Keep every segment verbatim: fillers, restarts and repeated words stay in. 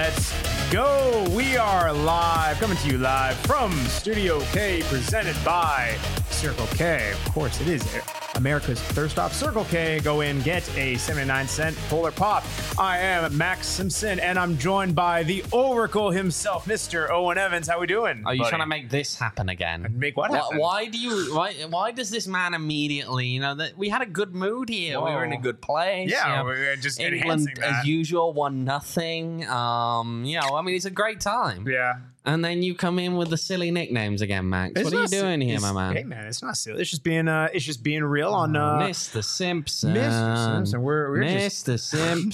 Let's go. We are live, coming to you live from Studio K, presented by Circle K. Of course, it is America's thirst stop. Circle K. Go in, get a seventy-nine cent Polar Pop. I am Max Simpson, and I'm joined by the Oracle himself, Mister Owen Evans. How we doing? Are you buddy? trying to make this happen again? Make what happen? Why, why do you? Why, why does this man immediately? You know that we had a good mood here. Whoa. We were in a good place. Yeah, you know, we're just England, enhancing that. as usual, won nothing. Um, you know, I mean, it's a great time. Yeah. And then you come in with the silly nicknames again, Max. It's what are you not doing si- here, it's- my man? Hey, man, it's not silly. It's just being, uh, it's just being real on, uh, Mister Simpson. Mister Simpson. We're, we're just Mister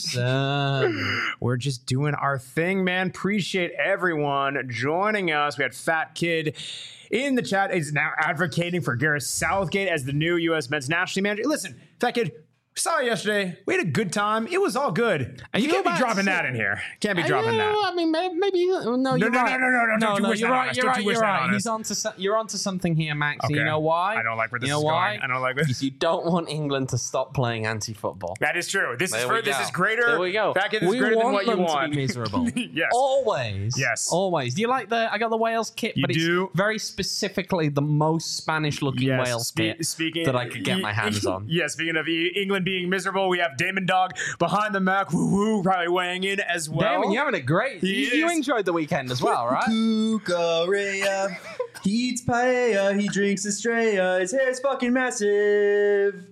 Simpson. We're just doing our thing, man. Appreciate everyone joining us. We had Fat Kid in the chat. He's now advocating for Gareth Southgate as the new U S men's national team manager. Listen, Fat Kid, saw you yesterday. We had a good time. It was all good. Are You, you can't be about dropping to- that in here. Can't be Uh, dropping yeah, that. I mean, maybe, maybe no, No, you're no, right. no, no, no, no, don't you no, wish you're that on right. us. You're Don't right. you wish You're that right. on He's us. on to so- you're onto something here, Max. Okay. You know why? I don't like where this you know is why? going. I don't like this. Because you don't want England to stop playing anti-football. That is true. This There is we for, this go. is greater. There we go. Fat Kid, this we is greater want than what you them want. to be miserable. Yes. Always. Yes. Always. Do you like the? I got the Wales kit, You but do? it's very specifically the most Spanish-looking Yes, Wales spe- kit speaking that I could get my hands on. Yeah, speaking of E- England being miserable, we have Damon Dog behind the Mac, woo woo, probably weighing in as well. Damon, you're having a great. He You, you is. enjoyed the weekend as well, right? Cucarea. He eats paella. He drinks Estrella. His hair's fucking massive.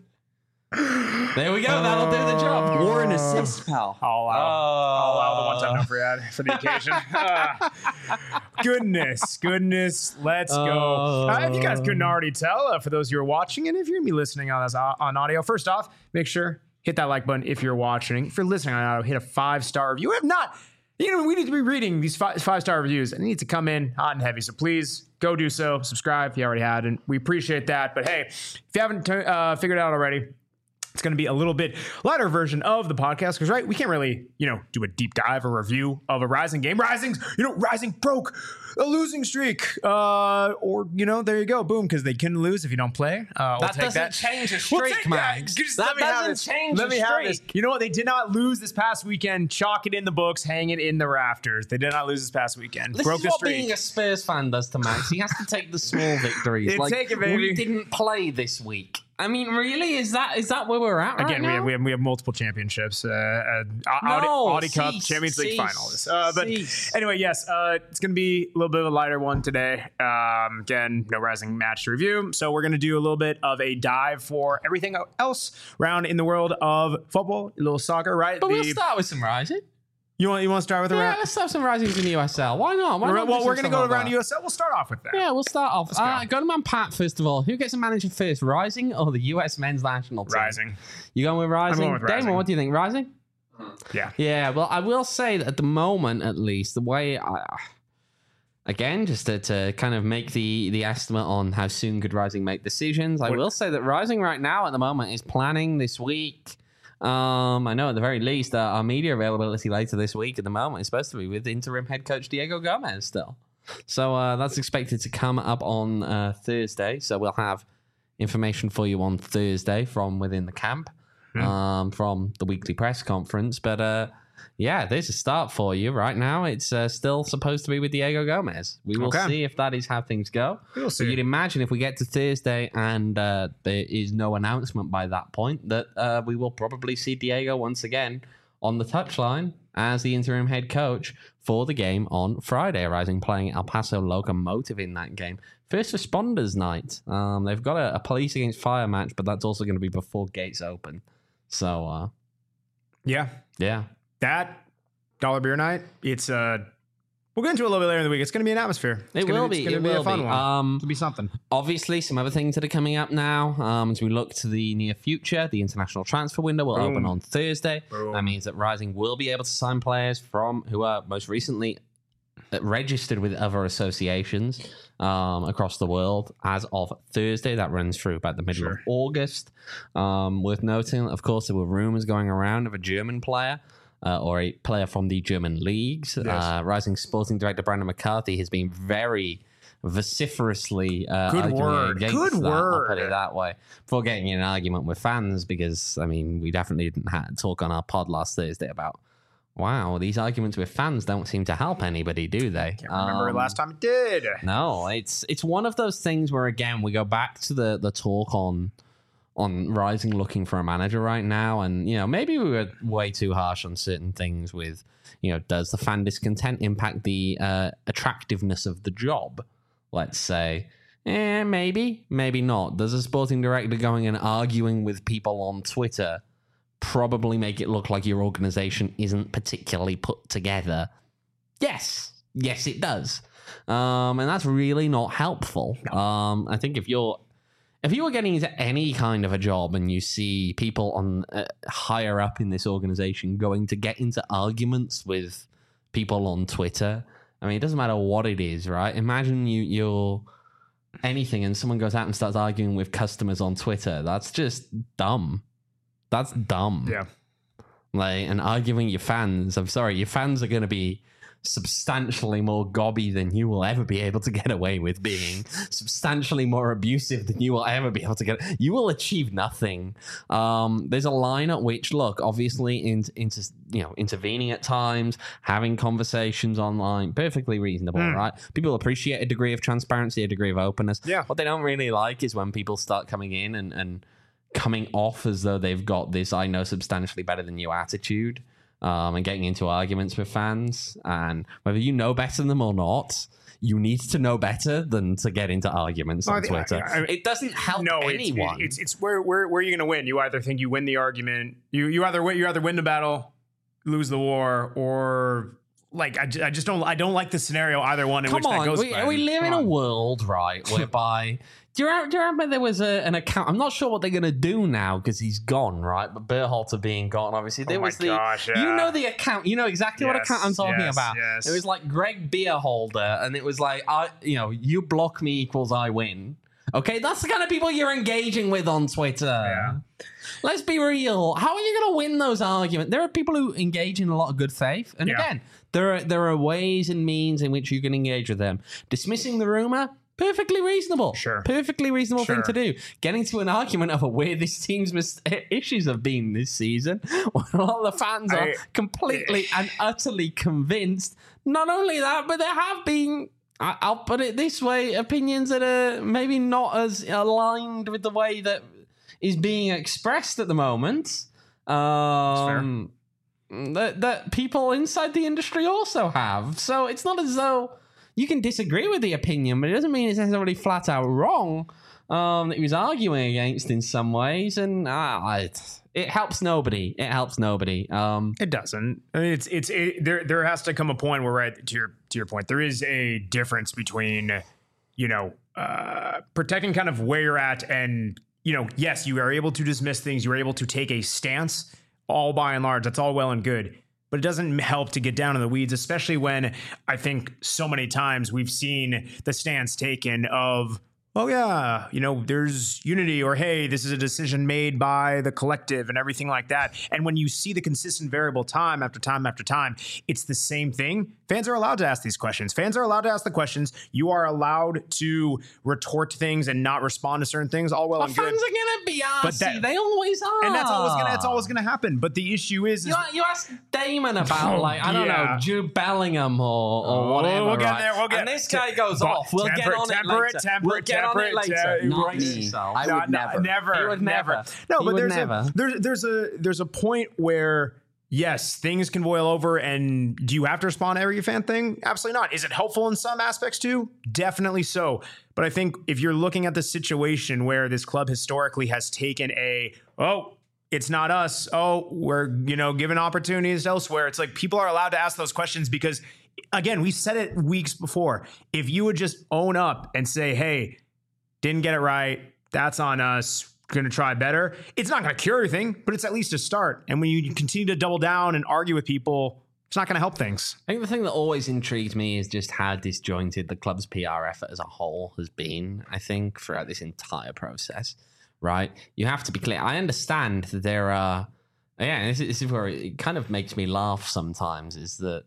There we go. That'll do the job. War and assist, pal. I'll allow, I'll allow the one-time Uh, number ad for the occasion. Ah. goodness, goodness, let's go. Uh, if you guys couldn't already tell, uh, for those who are watching, and if you're me listening on this uh, on audio, first off, make sure hit that like button if you're watching. If you're listening on audio, hit a five-star review. If not, you know, we need to be reading these five, five-star reviews, and it needs to come in hot and heavy. So please go do so. Subscribe if you already had, and we appreciate that. But hey, if you haven't t- uh, figured it out already, it's going to be a little bit lighter version of the podcast because, right, we can't really, you know, do a deep dive or review of a Rising game. Rising's, you know, Rising broke a losing streak. Uh, or, you know, there you go. Boom, because they couldn't lose if you don't play. Uh, we'll That take doesn't that. change a We'll streak, take man. that. Just That let me have doesn't this. change Let a me have this. streak. You know what? They did not lose this past weekend. Chalk it in the books. Hang it in the rafters. They did not lose this past weekend. This broke is the what streak. being a Spurs fan does to Max. He has to take the small victories. Yeah, like, take it, baby. we didn't play this week. I mean, really, is that is that where we're at right Again, we now? have, we have we have multiple championships. Uh, uh, Audi, No, Audi Cup, cease, Champions League cease, finals. Uh, but cease. anyway, yes, uh, it's going to be a little bit of a lighter one today. Um, again, no Rising match to review, so we're going to do a little bit of a dive for everything else around in the world of football, a little soccer, right? But we'll The- start with some Rising. you want you want to start with the Yeah, round? let's have some Risings in the U S L. Why not? Why not Well, do we're some going to stuff go like around that? U S L. We'll start off with that. Yeah, we'll start off. go. Uh, go to man Pat first of all. Who gets a manager first, Rising or the U S men's national team? Rising. You going with Rising? going with Damon, Rising. what do you think? Rising? Yeah. Yeah, well, I will say that at the moment, at least, the way I. Again, just to, to kind of make the, the estimate on how soon could Rising make decisions, I What- will say that Rising right now at the moment is planning this week. Um, I know at the very least uh, our media availability later this week at the moment is supposed to be with interim head coach Diego Gomez still. So uh, that's expected to come up on uh, Thursday. So we'll have information for you on Thursday from within the camp, Hmm. um, from the weekly press conference. But uh, yeah, there's a start for you right now. It's uh, still supposed to be with Diego Gomez. We will Okay. see if that is how things go. We'll So see. you'd imagine if we get to Thursday and uh, there is no announcement by that point, that uh, we will probably see Diego once again on the touchline as the interim head coach for the game on Friday, Rising playing El Paso Locomotive in that game. First responders night. Um, they've got a, a police against fire match, but that's also going to be before gates open. So, uh, Yeah. yeah. That dollar beer night, it's uh we'll get into it a little bit later in the week. It's going to be an atmosphere. It's It gonna will be. be. It's going It to be will a fun be. one. Um, It'll be something. Obviously, some other things that are coming up now um, as we look to the near future. The international transfer window will Boom. open on Thursday. Boom. That means that Rising will be able to sign players from who are most recently registered with other associations um, across the world as of Thursday. That runs through about the middle Sure. of August. Um, worth noting, of course, there were rumors going around of a German player. Uh, or a player from the German leagues. Yes. Uh, Rising sporting director Brandon McCarthy has been very vociferously uh, Good arguing word. against Good that, word. I'll put it that way. Before getting in an argument with fans, because I mean, we definitely didn't have talk on our pod last Thursday about Wow, these arguments with fans don't seem to help anybody, do they? Can't remember Um, last time it did. No, it's it's one of those things where again we go back to the the talk on on Rising looking for a manager right now, and you know maybe we were way too harsh on certain things. With you know, does the fan discontent impact the uh, attractiveness of the job? Let's say, eh, maybe, maybe not. Does a sporting director going and arguing with people on Twitter probably make it look like your organization isn't particularly put together? Yes, yes, it does, um, and that's really not helpful. Um, I think if you're if you were getting into any kind of a job and you see people on uh, higher up in this organization going to get into arguments with people on Twitter, I mean, it doesn't matter what it is, right? Imagine you you're anything and someone goes out and starts arguing with customers on Twitter. That's just dumb. That's dumb. Yeah. Like, and arguing your fans, I'm sorry, your fans are going to be substantially more gobby than you will ever be able to get away with being, substantially more abusive than you will ever be able to get. You will achieve nothing. Um, there's a line at which, look, obviously, into into you know, intervening at times, having conversations online, perfectly reasonable, Mm. right? People appreciate a degree of transparency, a degree of openness. Yeah. What they don't really like is when people start coming in and and coming off as though they've got this I know substantially better than you attitude, um, and getting into arguments with fans. And whether you know better than them or not, you need to know better than to get into arguments No, I on think- Twitter. I- I- it doesn't help No, it's, anyone. it's it's where where where are you going to win? You either think you win the argument, you you either win, you either win the battle, lose the war, or like I, ju- I just don't I don't like the scenario either one in Come which that on, goes. we, by. we live Come in a on. world, right, whereby do you, remember, do you remember there was a, an account? I'm not sure what they're going to do now because he's gone, right? But Berhalter being gone, obviously, there Oh my was the gosh, you yeah. know the account, you know exactly what Yes, account I'm talking yes, about. yes. It was like Greg Beerholder, and it was like, I, you know, you block me equals I win. Okay, that's the kind of people you're engaging with on Twitter. Yeah. Let's be real. How are you going to win those arguments? There are people who engage in a lot of good faith, and Yeah. again, there are there are ways and means in which you can engage with them. Dismissing the rumor, perfectly reasonable. Sure. Perfectly reasonable Sure. thing to do. Getting to an argument over where this team's mis- issues have been this season, when a lot of the fans are I- completely and utterly convinced. Not only that, but there have been, I- I'll put it this way, opinions that are maybe not as aligned with the way that is being expressed at the moment. Um, that that people inside the industry also have. So it's not as though you can disagree with the opinion, but it doesn't mean it's necessarily flat out wrong. Um, that he was arguing against in some ways, and uh, it, it helps nobody. It helps nobody. Um, It doesn't. I mean, it's it's it, there. There has to come a point where, right to your to your point, there is a difference between, you know, uh, protecting kind of where you're at, and you know, yes, you are able to dismiss things. You are able to take a stance. All by and large, that's all well and good, but it doesn't help to get down in the weeds, especially when I think so many times we've seen the stance taken of, oh yeah, you know, there's unity, or hey, this is a decision made by the collective and everything like that. And when you see the consistent variable time after time after time, it's the same thing. Fans are allowed to ask these questions. Fans are allowed to ask the questions. You are allowed to retort things and not respond to certain things. All well our and fans good. are gonna be But arsy. that- They always are, And that's always gonna that's always gonna happen. But the issue is, is You, you ask Damon about, like, I don't Yeah. know, Jude Bellingham or, or Oh, whatever. we'll get right? there, we'll get- and this guy te- goes but off. We'll temper get it, on temper it it, later. temper we'll it, get on temper it it, later. temper- Not right. me. I No, would no, never. never, He would never. never. No, He but would there's never. a there's there's a there's a point where yes, things can boil over, and do you have to respond to every fan thing? Absolutely not. Is it helpful in some aspects too? Definitely so. But I think if you're looking at the situation where this club historically has taken a oh. It's not us. Oh, we're, you know, given opportunities elsewhere. It's like people are allowed to ask those questions because, again, we said it weeks before. If you would just own up and say, hey, didn't get it right, that's on us, going to try better. It's not going to cure everything, but it's at least a start. And when you continue to double down and argue with people, it's not going to help things. I think the thing that always intrigues me is just how disjointed the club's P R effort as a whole has been, I think, throughout this entire process. Right? You have to be clear. I understand that there are, yeah, this is, this is where it kind of makes me laugh sometimes, is that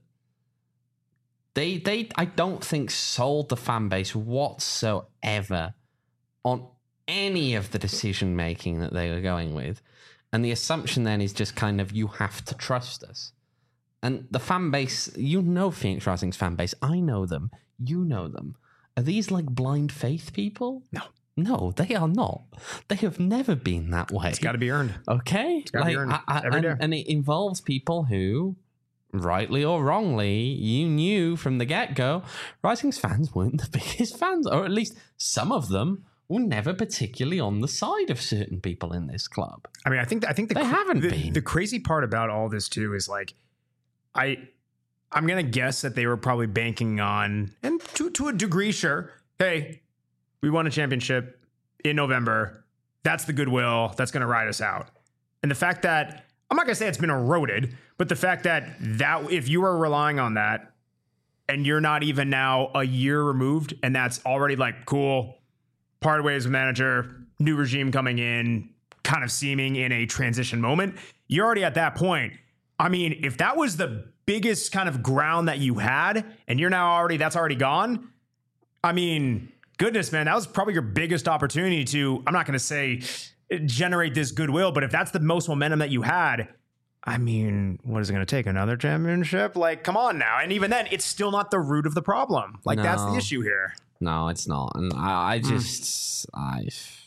they, they, I don't think sold the fan base whatsoever on any of the decision making that they were going with. And the assumption then is just kind of, you have to trust us. and the fan base, you know Phoenix Rising's fan base. I know them. You know them. Are these like blind faith people? No. No, they are not. They have never been that way. It's got to be earned. Okay? gotta be earned I, I, every and, day. and it involves people who, rightly or wrongly, you knew from the get-go, Rising's fans weren't the biggest fans, or at least some of them were never particularly on the side of certain people in this club. I mean, I think I think the They haven't the, been. the crazy part about all this too is like, I I'm gonna guess that they were probably banking on, and to to a degree, sure. Hey, we won a championship in November. That's the goodwill that's gonna ride us out. And the fact that I'm not gonna say it's been eroded, but the fact that that if you are relying on that, and you're not even now a year removed, and that's already like cool. Parted ways with manager, new regime coming in, kind of seeming in a transition moment. You're already at that point. I mean, if that was the biggest kind of ground that you had, and you're now already, that's already gone. I mean, goodness, man, that was probably your biggest opportunity to, I'm not going to say generate this goodwill, but if that's the most momentum that you had, I mean, what is it going to take? Another championship? Like, come on now. And even then, it's still not the root of the problem. Like, No. that's the issue here. No, it's not. And I, I just, I.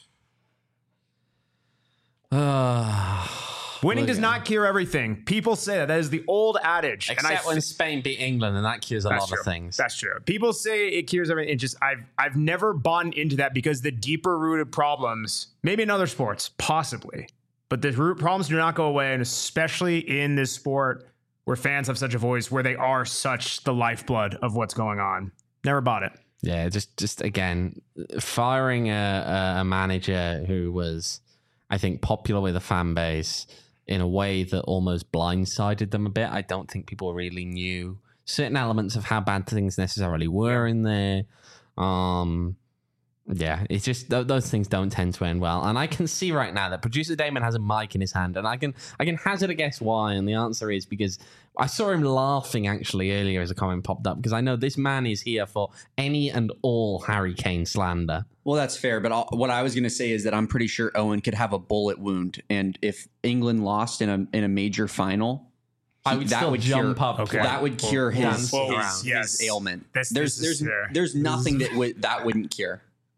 Uh, Winning does yeah. not cure everything. People say that. That is the old adage. Except and I when f- Spain beat England, and that cures a That's lot true. of things. That's true. People say it cures everything. It just I've I've never bought into that because the deeper rooted problems, maybe in other sports, possibly, but the root problems do not go away, and especially in this sport where fans have such a voice, where they are such the lifeblood of what's going on. Never bought it. Yeah, just just again, firing a, a manager who was, I think, popular with the fan base in a way that almost blindsided them a bit. I don't think people really knew certain elements of how bad things necessarily were in there. Um, yeah, it's just th- those things don't tend to end well. And I can see right now that producer Damon has a mic in his hand, and I can I can hazard a guess why. And the answer is because I saw him laughing actually earlier as a comment popped up, because I know this man is here for any and all Harry Kane slander. Well, that's fair. But I'll, what I was going to say is that I'm pretty sure Owen could have a bullet wound. And if England lost in a in a major final, I he- would that still would jump cure, up. Okay. That would cure Well, his, well, his, around. his Yes. ailment. This- there's this is there's fair. there's nothing that would that wouldn't cure.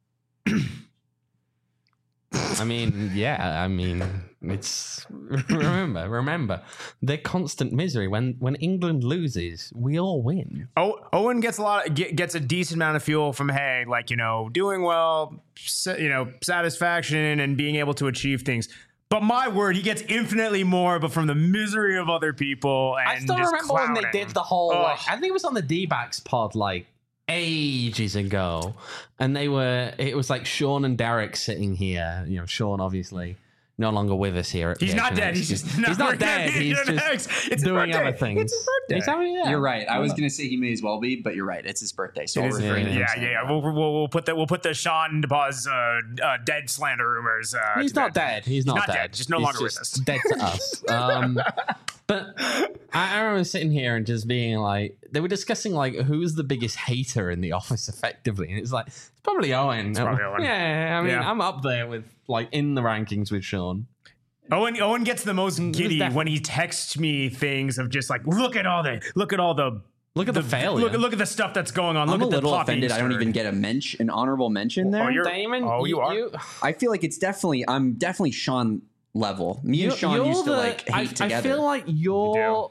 I mean, yeah, I mean, it's remember, remember, their constant misery. When when England loses, we all win. Oh, Owen gets a lot, of, get, gets a decent amount of fuel from hey, like you know, doing well, sa- you know, satisfaction and being able to achieve things. But my word, he gets infinitely more, but from the misery of other people. And I still just remember when they clowning. did the whole, Ugh. like, I think it was on the D-backs pod, like, ages ago. And they were, it was like Sean and Derek sitting here. You know, Sean, obviously, no longer with us here. At He's P H not N X. dead. He's just he's not not dead. He's just It's his doing birthday. other things. It's his birthday. He's having- yeah. You're right. I was going to say he may as well be, but you're right. It's his birthday, so It I'll is- refrain. yeah, from yeah, saying yeah, yeah. that. We'll, we'll, we'll put the we'll put the Sean DePaz uh, uh, dead slander rumors. Uh, He's to not bed. dead. He's not, not dead. dead. Just no He's longer with just us. Dead to us. Um, but I, I remember sitting here and just being like, they were discussing like who's the biggest hater in the office, effectively, and it's like it's probably Owen. It's probably Owen. Yeah, I mean, Yeah. I'm up there with like in the rankings with Sean. Owen Owen gets the most giddy def- when he texts me things of just like look at all the look at all the Look at the, failure. look, look at the stuff that's going on. I'm look a at the little poppy offended. I don't shirt. even get a mention, an honorable mention there. Oh, you're- Damon. oh, you are? I feel like it's definitely. I'm definitely Sean level. Me and You're- Sean you're used to the- like hate I, together. I feel like you're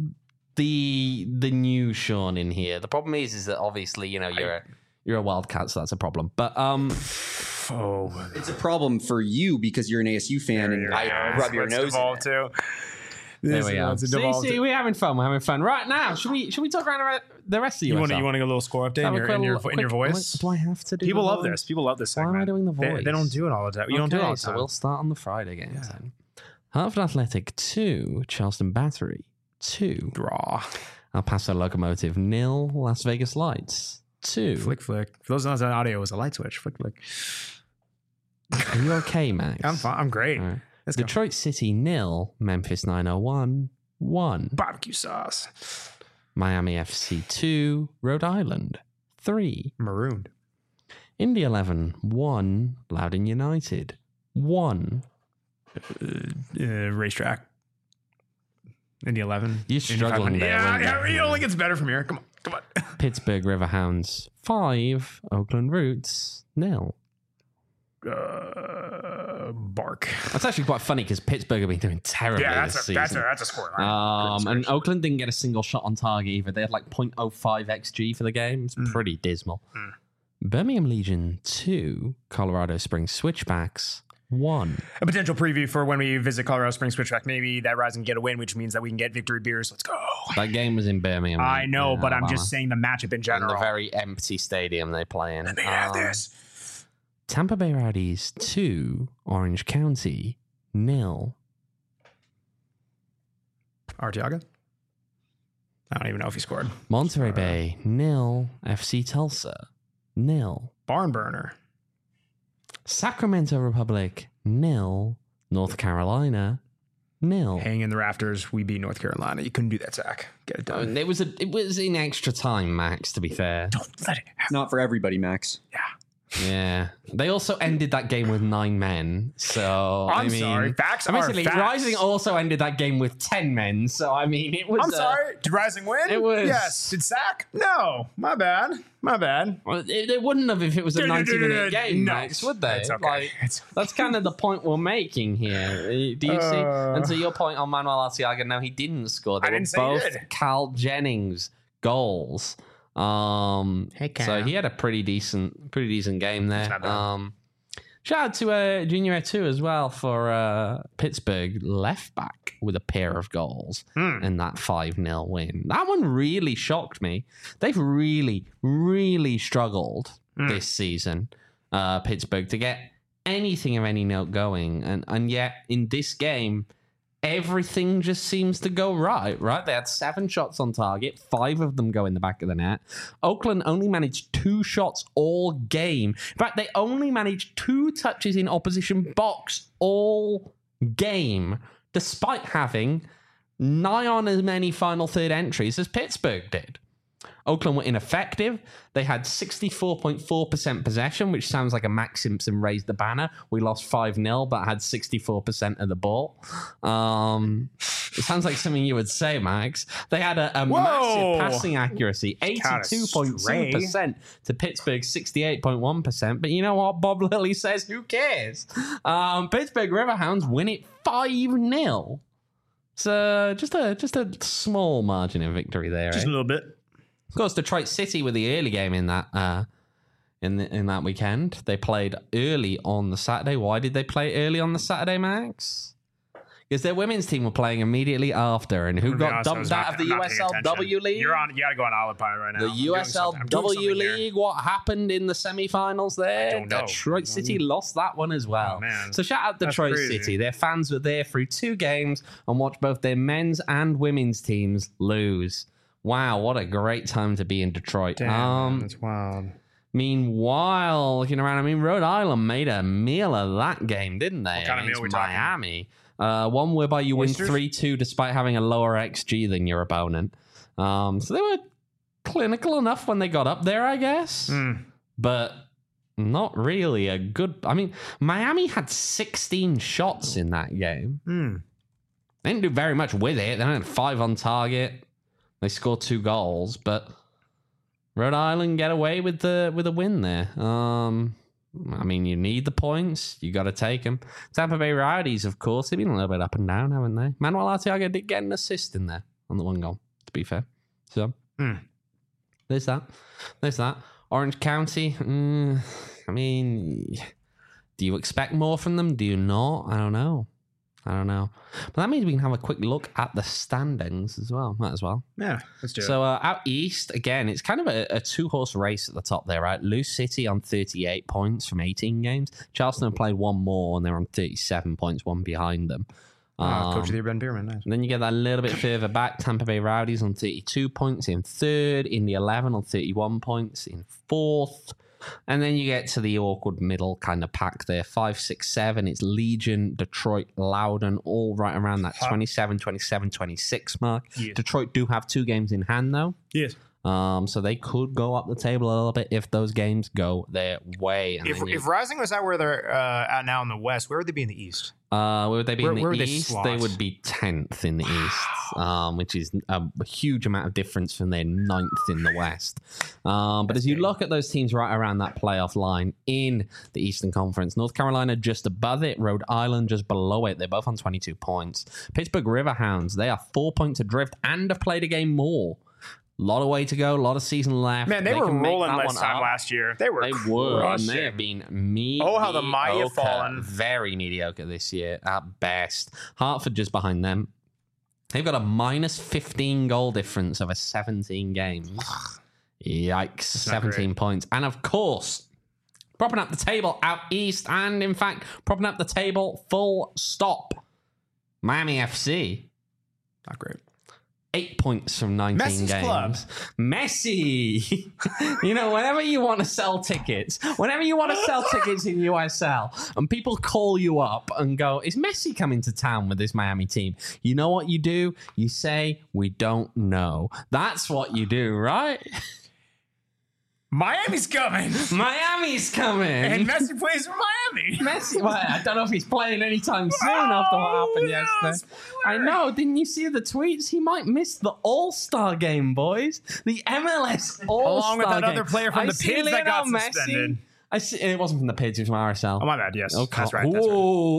the the new Sean in here. The problem is, is that obviously you know you're a, you're a wildcat, so that's a problem. But um, Oh, it's a problem for you because you're an A S U fan, and I rub your nose in it. too. there This we is are. what's See, devolved see, to. we're having fun. We're having fun right now. Should we? Should we talk around the re- the rest of You you? want to you want to get a little score update in your, in your, in your voice? Do I have to do? People the love voice? this. People love this Why segment. am I doing the They, voice? they don't do it all the time. You don't do it Okay, all the so time. we'll start on the Friday games then. Hartford Athletic two, Charleston Battery two, Draw. El Paso Locomotive nil, Las Vegas Lights two. Flick flick. For those of us on audio, it was a light switch. Flick flick. Are you okay, Max? I'm fine. I'm great. All right. Let's go. Detroit City nil, Memphis nine oh one one, Barbecue sauce. Miami F C two, Rhode Island three, Marooned. Indy eleven one, Loudoun United one, Uh, racetrack. Indy eleven. You're struggling there. Yeah, weren't yeah, you? it only gets better from here. Come on, come on. Pittsburgh Riverhounds five, Oakland Roots nil. Uh, bark. That's actually quite funny because Pittsburgh have been doing terribly Yeah, that's this a, season. that's a that's a score line. Um, and Oakland didn't get a single shot on target either. They had like point oh five X G for the game. It's Mm. pretty dismal. Mm. Birmingham Legion two, Colorado Springs Switchbacks one. A potential preview for when we visit Colorado Springs Switchback. Maybe that Rise can get a win, which means that we can get victory beers. Let's go. That game was in Birmingham. I know, in but I'm Alabama. just saying the matchup in in general. the very empty stadium they play in. Let me have Um, this. Tampa Bay Rowdies two, Orange County nil. Arteaga? I don't even know if he scored. Monterey Uh, Bay nil, F C Tulsa nil. Barn burner. Sacramento Republic nil, North Carolina nil. Hang in the rafters. We beat North Carolina. You couldn't do that, Zach. Get it done. And it was a, it was in extra time, Max. To be fair, Don't let it happen. Not for everybody, Max. Yeah. yeah. They also ended that game with nine men. So I'm I mean, sorry. Facts I mean, are basically, facts. Rising also ended that game with ten men. So I mean, it was. I'm uh, sorry. Did Rising win? it was- Yes. Did Sack? No. My bad. My bad. Well, They they wouldn't have if it was a ninety minute game, No. Max, would they? It's okay. Like, It's- that's kind of the point we're making here. Do you see? Uh. And to your point on Manuel Arteaga, no, he didn't score. They I were didn't say he both did. Cal Jennings goals. Um, Hey, Cal. so he had a pretty decent, pretty decent game there. not bad. Um, shout out to uh, Junior two as well for uh, Pittsburgh left back with a pair of goals Hmm. in that five nil win. That one really shocked me. They've really, really struggled Mm. this season, uh, Pittsburgh, to get anything of any note going. And, and yet, in this game, everything just seems to go right, right? They had seven shots on target, five of them go in the back of the net. Oakland only managed two shots all game. In fact, they only managed two touches in opposition box all game, despite having nigh on as many final third entries as Pittsburgh did. Oakland were ineffective. They had sixty-four point four percent possession, which sounds like a Max Simpson raised the banner. We lost five nil, but had sixty-four percent of the ball. Um, it sounds like something you would say, Max. They had a, a Whoa. massive passing accuracy, eighty-two point two percent to Pittsburgh's sixty-eight point one percent. But you know what? Bob Lilly says, who cares? Um, Pittsburgh Riverhounds win it five nil. So just a just a small margin of victory there. Just eh? a little bit. Of course, Detroit City were the early game in that uh, in the, in that weekend. They played early on the Saturday. Why did they play early on the Saturday, Max? Because their women's team were playing immediately after, and who To be got honest, I was dumped not- out of the I'm not paying U S L W attention. League? You're on. You got to go on autopilot right now. The I'm doing U S L something- I'm doing W something here. League, what happened in the semifinals there? don't know. Detroit City lost that one as well. Oh, man. So shout out That's Detroit crazy. City. Their fans were there through two games and watched both their men's and women's teams lose. Wow, what a great time to be in Detroit. Damn, um, man, that's wild. Meanwhile, looking around, I mean, Rhode Island made a meal of that game, didn't they? What kind of meal against we talking? Miami. Uh, one whereby you Oysters? win three two despite having a lower X G than your opponent. Um, so they were clinical enough when they got up there, I guess. Mm. But not really a good... I mean, Miami had sixteen shots in that game. Mm. They didn't do very much with it. They only had five on target. They scored two goals, but Rhode Island get away with the with a win there. Um, I mean, you need the points. You got to take them. Tampa Bay Rowdies, of course, they've been a little bit up and down, haven't they? Manuel Arteaga did get an assist in there on the one goal, to be fair. So, Mm. there's that. There's that. Orange County, mm, I mean, do you expect more from them? Do you not? I don't know. I don't know. But that means we can have a quick look at the standings as well. Might as well. Yeah, let's do it. So uh, out east, again, it's kind of a, a two-horse race at the top there, right? Lou City on thirty-eight points from eighteen games. Charleston have played one more, and they're on thirty-seven points, one behind them. Ah, Um, Coach of the Year, Ben Bierman. Nice. and then you get that a little bit further back. Tampa Bay Rowdies on thirty-two points in third. In the eleven on thirty-one points in fourth. And then you get to the awkward middle kind of pack there. Five, six, seven. It's Legion, Detroit, Loudon, all right around that Huh. twenty-seven, twenty-seven, twenty-six mark. Yes. Detroit do have two games in hand, though. Yes. Um, so they could go up the table a little bit if those games go their way. And If, then you- if Rising was at where they're uh, at now in the West, where would they be in the East? Uh, where would they be Where- in the where would they East? They, slot? would be tenth in the East, um, which is a huge amount of difference from their ninth in the West. Um, but as you look at those teams right around that playoff line in the Eastern Conference, North Carolina just above it, Rhode Island just below it. They're both on twenty-two points. Pittsburgh Riverhounds, they are four points adrift and have played a game more. A lot of way to go, a lot of season left. Man, they, were can make rolling that this one time up. last year. They were They were, and crushing. they have been mediocre. Oh, how the mighty have fallen. Very mediocre this year at best. Hartford just behind them. They've got a minus fifteen goal difference over seventeen games. Yikes, seventeen great. points. And of course, propping up the table out east, and in fact, propping up the table full stop. Miami F C. Not great. Eight points from nineteen Messi's games. club. Messi. You know, whenever you want to sell tickets, whenever you want to sell tickets in U S L, and people call you up and go, is Messi coming to town with this Miami team? You know what you do? You say, we don't know. That's what you do, right? Miami's coming. Miami's coming. And Messi plays for Miami. Messi, well, I don't know if he's playing anytime soon after what happened Oh, yesterday. no, I know. Didn't you see the tweets? He might miss the All-Star game, boys. The M L S All-Star Along with that game. other player from I the see Pids that got Lionel Messi. suspended. I see, it wasn't from the Pids, it was from R S L. Oh, my bad. Yes. Okay. That's right. That's right.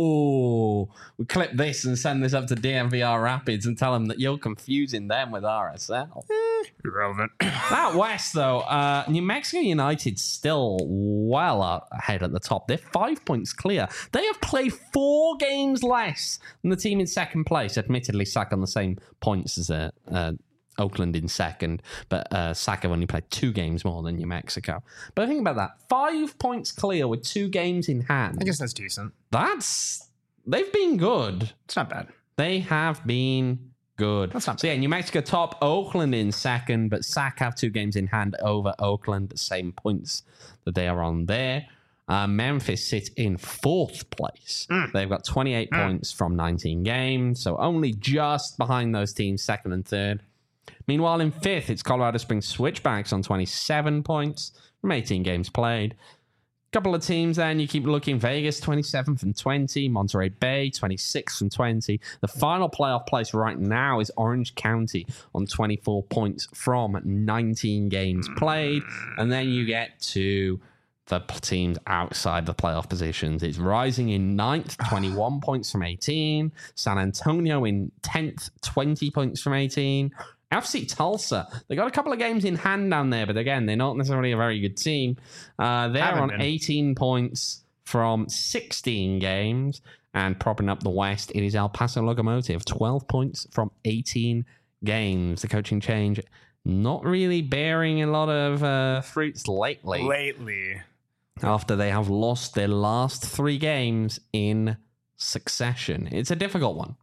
Whoa. We clip this and send this up to D M V R Rapids and tell them that you're confusing them with R S L. Irrelevant. That West, though, uh, New Mexico United still well up ahead at the top. They're five points clear. They have played four games less than the team in second place. Admittedly, Sac on the same points as uh, uh, Oakland in second, but uh, Sac have only played two games more than New Mexico. But think about that. Five points clear with two games in hand. I guess that's decent. That's... They've been good. It's not bad. They have been good. That's not so yeah, New Mexico top, Oakland in second, but Sac have two games in hand over Oakland, same points that they are on there. Uh, Memphis sit in fourth place. Mm. They've got twenty-eight Mm. points from nineteen games, so only just behind those teams, second and third. Meanwhile, in fifth, it's Colorado Springs Switchbacks on twenty-seven points from eighteen games played. Couple of teams then, you keep looking. Vegas, twenty-seven from twenty. Monterey Bay, twenty-six from twenty. The final playoff place right now is Orange County on twenty-four points from nineteen games played. And then you get to the p- teams outside the playoff positions. It's Rising in ninth, twenty-one points from eighteen. San Antonio in tenth, twenty points from eighteen. F C Tulsa, they got a couple of games in hand down there, but again, they're not necessarily a very good team. Uh, they're Haven't on been. eighteen points from sixteen games, and propping up the West, it is El Paso Locomotive, twelve points from eighteen games. The coaching change not really bearing a lot of uh, fruits lately, Lately. after they have lost their last three games in succession. It's a difficult one.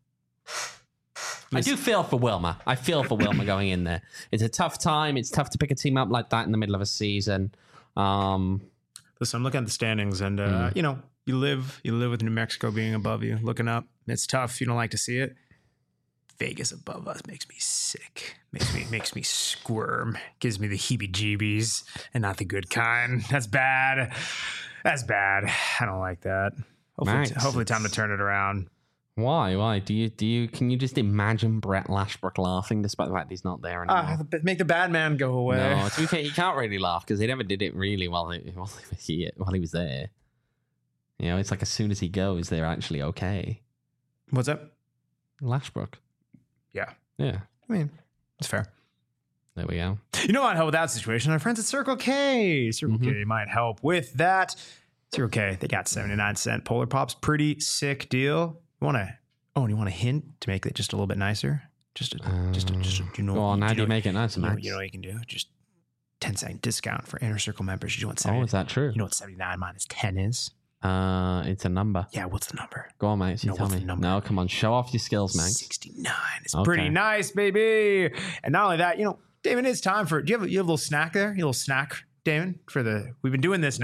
I do feel for Wilma. I feel for Wilma going in there. It's a tough time. It's tough to pick a team up like that in the middle of a season. Um, Listen, I'm looking at the standings, and uh, Mm. you know, you live, you live with New Mexico being above you, looking up. It's tough. You don't like to see it. Vegas above us makes me sick. Makes me makes me squirm. Gives me the heebie-jeebies, and not the good kind. That's bad. That's bad. I don't like that. Hopefully, Max, hopefully, time to it's- turn it around. why? Why? Do you do you can you just imagine Brett Lashbrook laughing despite the fact he's not there anymore? Ah, make the bad man go away. No, to be fair, he can't really laugh because he never did it really while he, while he while he was there. You know, it's like as soon as he goes, they're actually okay. What's up? Lashbrook. Yeah, Yeah. I mean, it's fair. There we go. You know what help with that situation? Our friends at Circle K. Circle Mhm. K might help with that. Circle K, they got seventy-nine cent Polar Pops. Pretty sick deal. You want to, oh, and you want a hint to make it just a little bit nicer? Just a, just a, just a, you know, Go on, you, how you do you know, make it nice, you know, Max? you know what you can do? Just ten cent discount for Inner Circle members. You know what Oh, seventy, is that true? you know what seventy-nine minus ten is? Uh, it's a number. Yeah, what's the number? Go on, mate. You No, tell what's me. the number? No, come on. Show off your skills, Max. sixty-nine. It's Okay. pretty nice, baby. And not only that, you know, Damon, it's time for, do you have, a, you have a little snack there? You have a little snack, Damon, for the, we've been doing this now.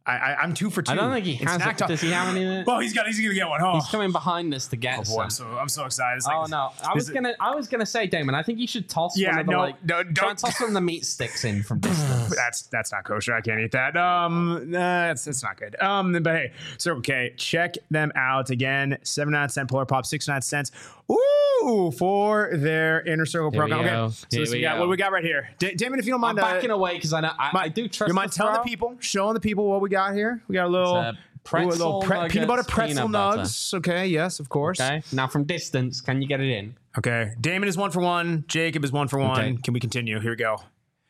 I, I, I'm two for two. I don't think he in has snack it. talk. Does he have any of it? Well, he's got. He's gonna get one. Oh, He's coming behind us to get oh boy, some. I'm so I'm so excited. It's like, Oh no! I was this- gonna, I was gonna say, Damon. I think you should toss Yeah, one of the no, like, no, try and don't- toss one of the meat sticks in from distance. That's that's not kosher. I can't eat that. Um, nah, that's that's not good. Um, but hey, so okay, check them out again. seventy-nine cent Polar Pop, sixty-nine cents. Ooh, for their inner circle Here we program. go. Okay, so Here this we we got go. what we got right here. Da- Damon, if you don't I'm mind, uh, backing away because I know I, I do trust. you mind the telling the throw. people, showing the people what we got here? We got a little, It's a pretzel ooh, a little pre- peanut butter nuggets, pretzel peanut butter. nugs. Okay, yes, of course. Okay. Now from distance, can you get it in? Okay, Damon is one for one. Jacob is one for one. Okay. Can we continue? Here we go.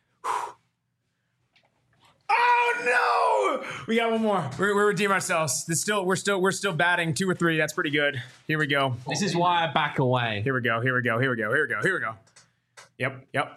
Oh no! We got one more. We're, we're redeeming ourselves. This still, we're still, we're still batting two or three. That's pretty good. Here we go. This is why I back away. Here we go. Here we go. Here we go. Here we go. Here we go. Yep. Yep.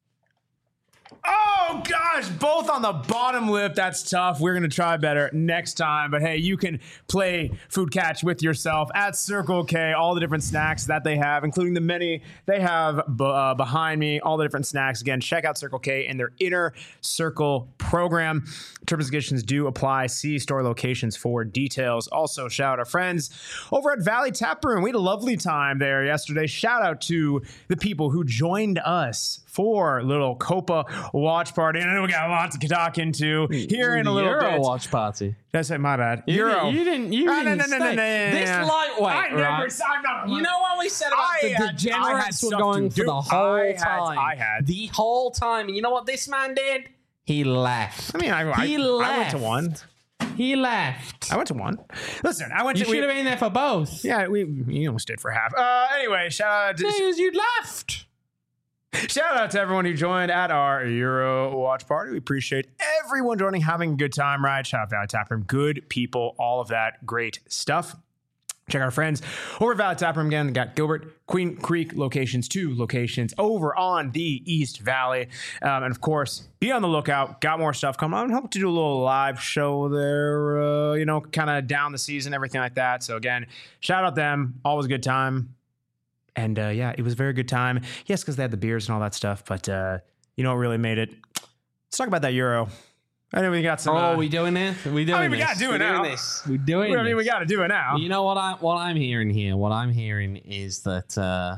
Oh gosh, both on the bottom lip. That's tough. We're gonna try better next time. But hey, you can play food catch with yourself at Circle K. All the different snacks that they have, including the many they have b- uh, behind me. All the different snacks. Again, check out Circle K and their Inner Circle program. Terms and conditions do apply. See store locations for details. Also, shout out our friends over at Valley Tap Room. We had a lovely time there yesterday. Shout out to the people who joined us for little Copa watch party. And I know we got lots to talk into here in a little Euro bit. watch party. Did I say my bad? You Euro. Didn't, you didn't. You Ah, no, didn't no, no, no, stay. no, no, This no. lightweight, I never right? said- I'm not- You know what we said about I the had- I had degenerates were stuff going to for do. the whole I had- time. I had. the whole time. And you know what this man did? He left. I mean, I, I, he I left. went to one. He left. I went to one. Listen, I went You to. we- should have been there for both. Yeah, we you almost did for half. Uh, anyway, shout out to, Because you left. shout out to everyone who joined at our Euro watch party. We appreciate everyone joining, having a good time, right? Shout out Valley Tap Room, good people, all of that great stuff. Check out our friends over at Valley Tap Room again. They got Gilbert, Queen Creek locations, two locations over on the East Valley. Um, and of course, be on the lookout. Got more stuff coming on. Hope to do a little live show there, uh, you know, kind of down the season, everything like that. So again, shout out them. Always a good time. And uh, yeah, it was a very good time. Yes, because they had the beers and all that stuff. But uh, you know what really made it? Let's talk about that Euro. I know we got some. Oh, uh, we doing it? We doing I mean, we this? gotta do it we now. Doing this. We doing I mean, we this. got to do it now. You know what I what I'm hearing here? What I'm hearing is that uh,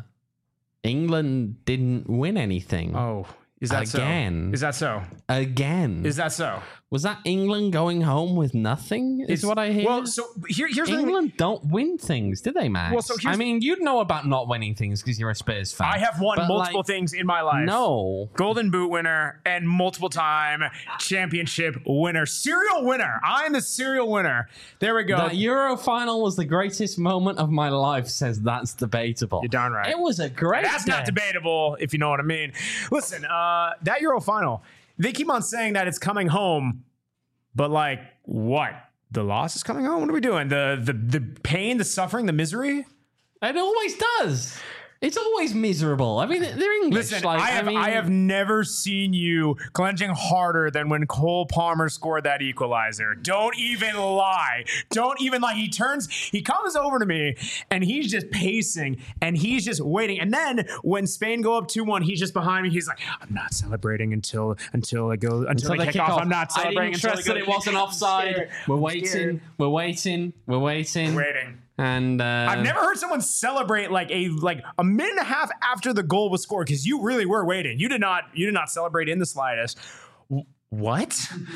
England didn't win anything. Oh, is that Again. so? Is that so? Again. Is that so? Was that England going home with nothing? Is It's- what I hear. Well, so here, here's the thing. England don't win things, do they, Max? Well, so here's- I mean, you'd know about not winning things because you're a Spurs fan. I have won But, multiple like, things in my life. No. Golden Boot winner and multiple time championship winner. Serial winner. I'm the serial winner. There we go. That Euro final was the greatest moment of my life, says that's debatable. You're darn right. It was a great That's not day. debatable, if you know what I mean. Listen, uh, that Euro final, they keep on saying that it's coming home, but like, what? The loss is coming home? What are we doing? The the the pain, the suffering, the misery? It always does. It's always miserable. I mean, they're English. Listen, like, I have I, mean, have never seen you clenching harder than when Cole Palmer scored that equalizer. Don't even lie. Don't even lie. He turns, he comes over to me and he's just pacing and he's just waiting. And then when Spain go up two one, he's just behind me. He's like, I'm not celebrating until until it goes until, until they kick, off. I'm not I celebrating didn't until trust they that go- it wasn't I'm offside. scared. We're I'm waiting. scared. We're waiting. We're waiting. Waiting. And uh, I've never heard someone celebrate like a like a minute and a half after the goal was scored because you really were waiting. You did not you did not celebrate in the slightest. W- what?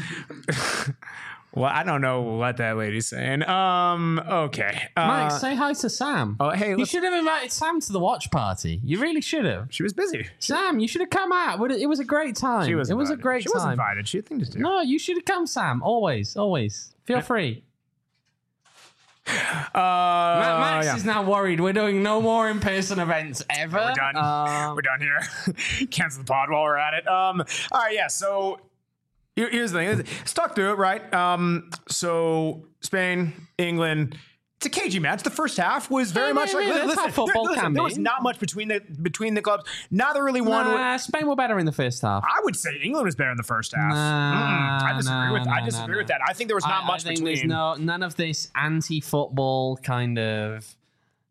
Well, I don't know what that lady's saying. Um. Okay. Uh, Mike, say hi to Sam. oh, hey, You let's- should have invited Sam to the watch party. You really should have. she was busy. Sam, you should have come out. Would it it was a great time. She was. It was a invited. great She was time. invited. She had things to do. No, you should have come, Sam. Always, always. Feel free. Uh, Ma- Max yeah. is now worried. We're doing no more in-person events ever. We're done. Um, We're done here. Cancel the pod while we're at it. Um. All right. Yeah. So here- here's the thing. Let's talk through it. Right. Um. So Spain, England. It's a cagey match. The first half was very Yeah, much yeah, like yeah, listen, that's how there- football listen, can there be. was not much between the between the clubs. Neither really won. Nah, Spain were better in the first half. I would say England was better in the first half. Nah, Mm-mm. I disagree nah, with I nah, disagree nah, with that. I think there was not I, much I think between. There's no none of this anti-football kind of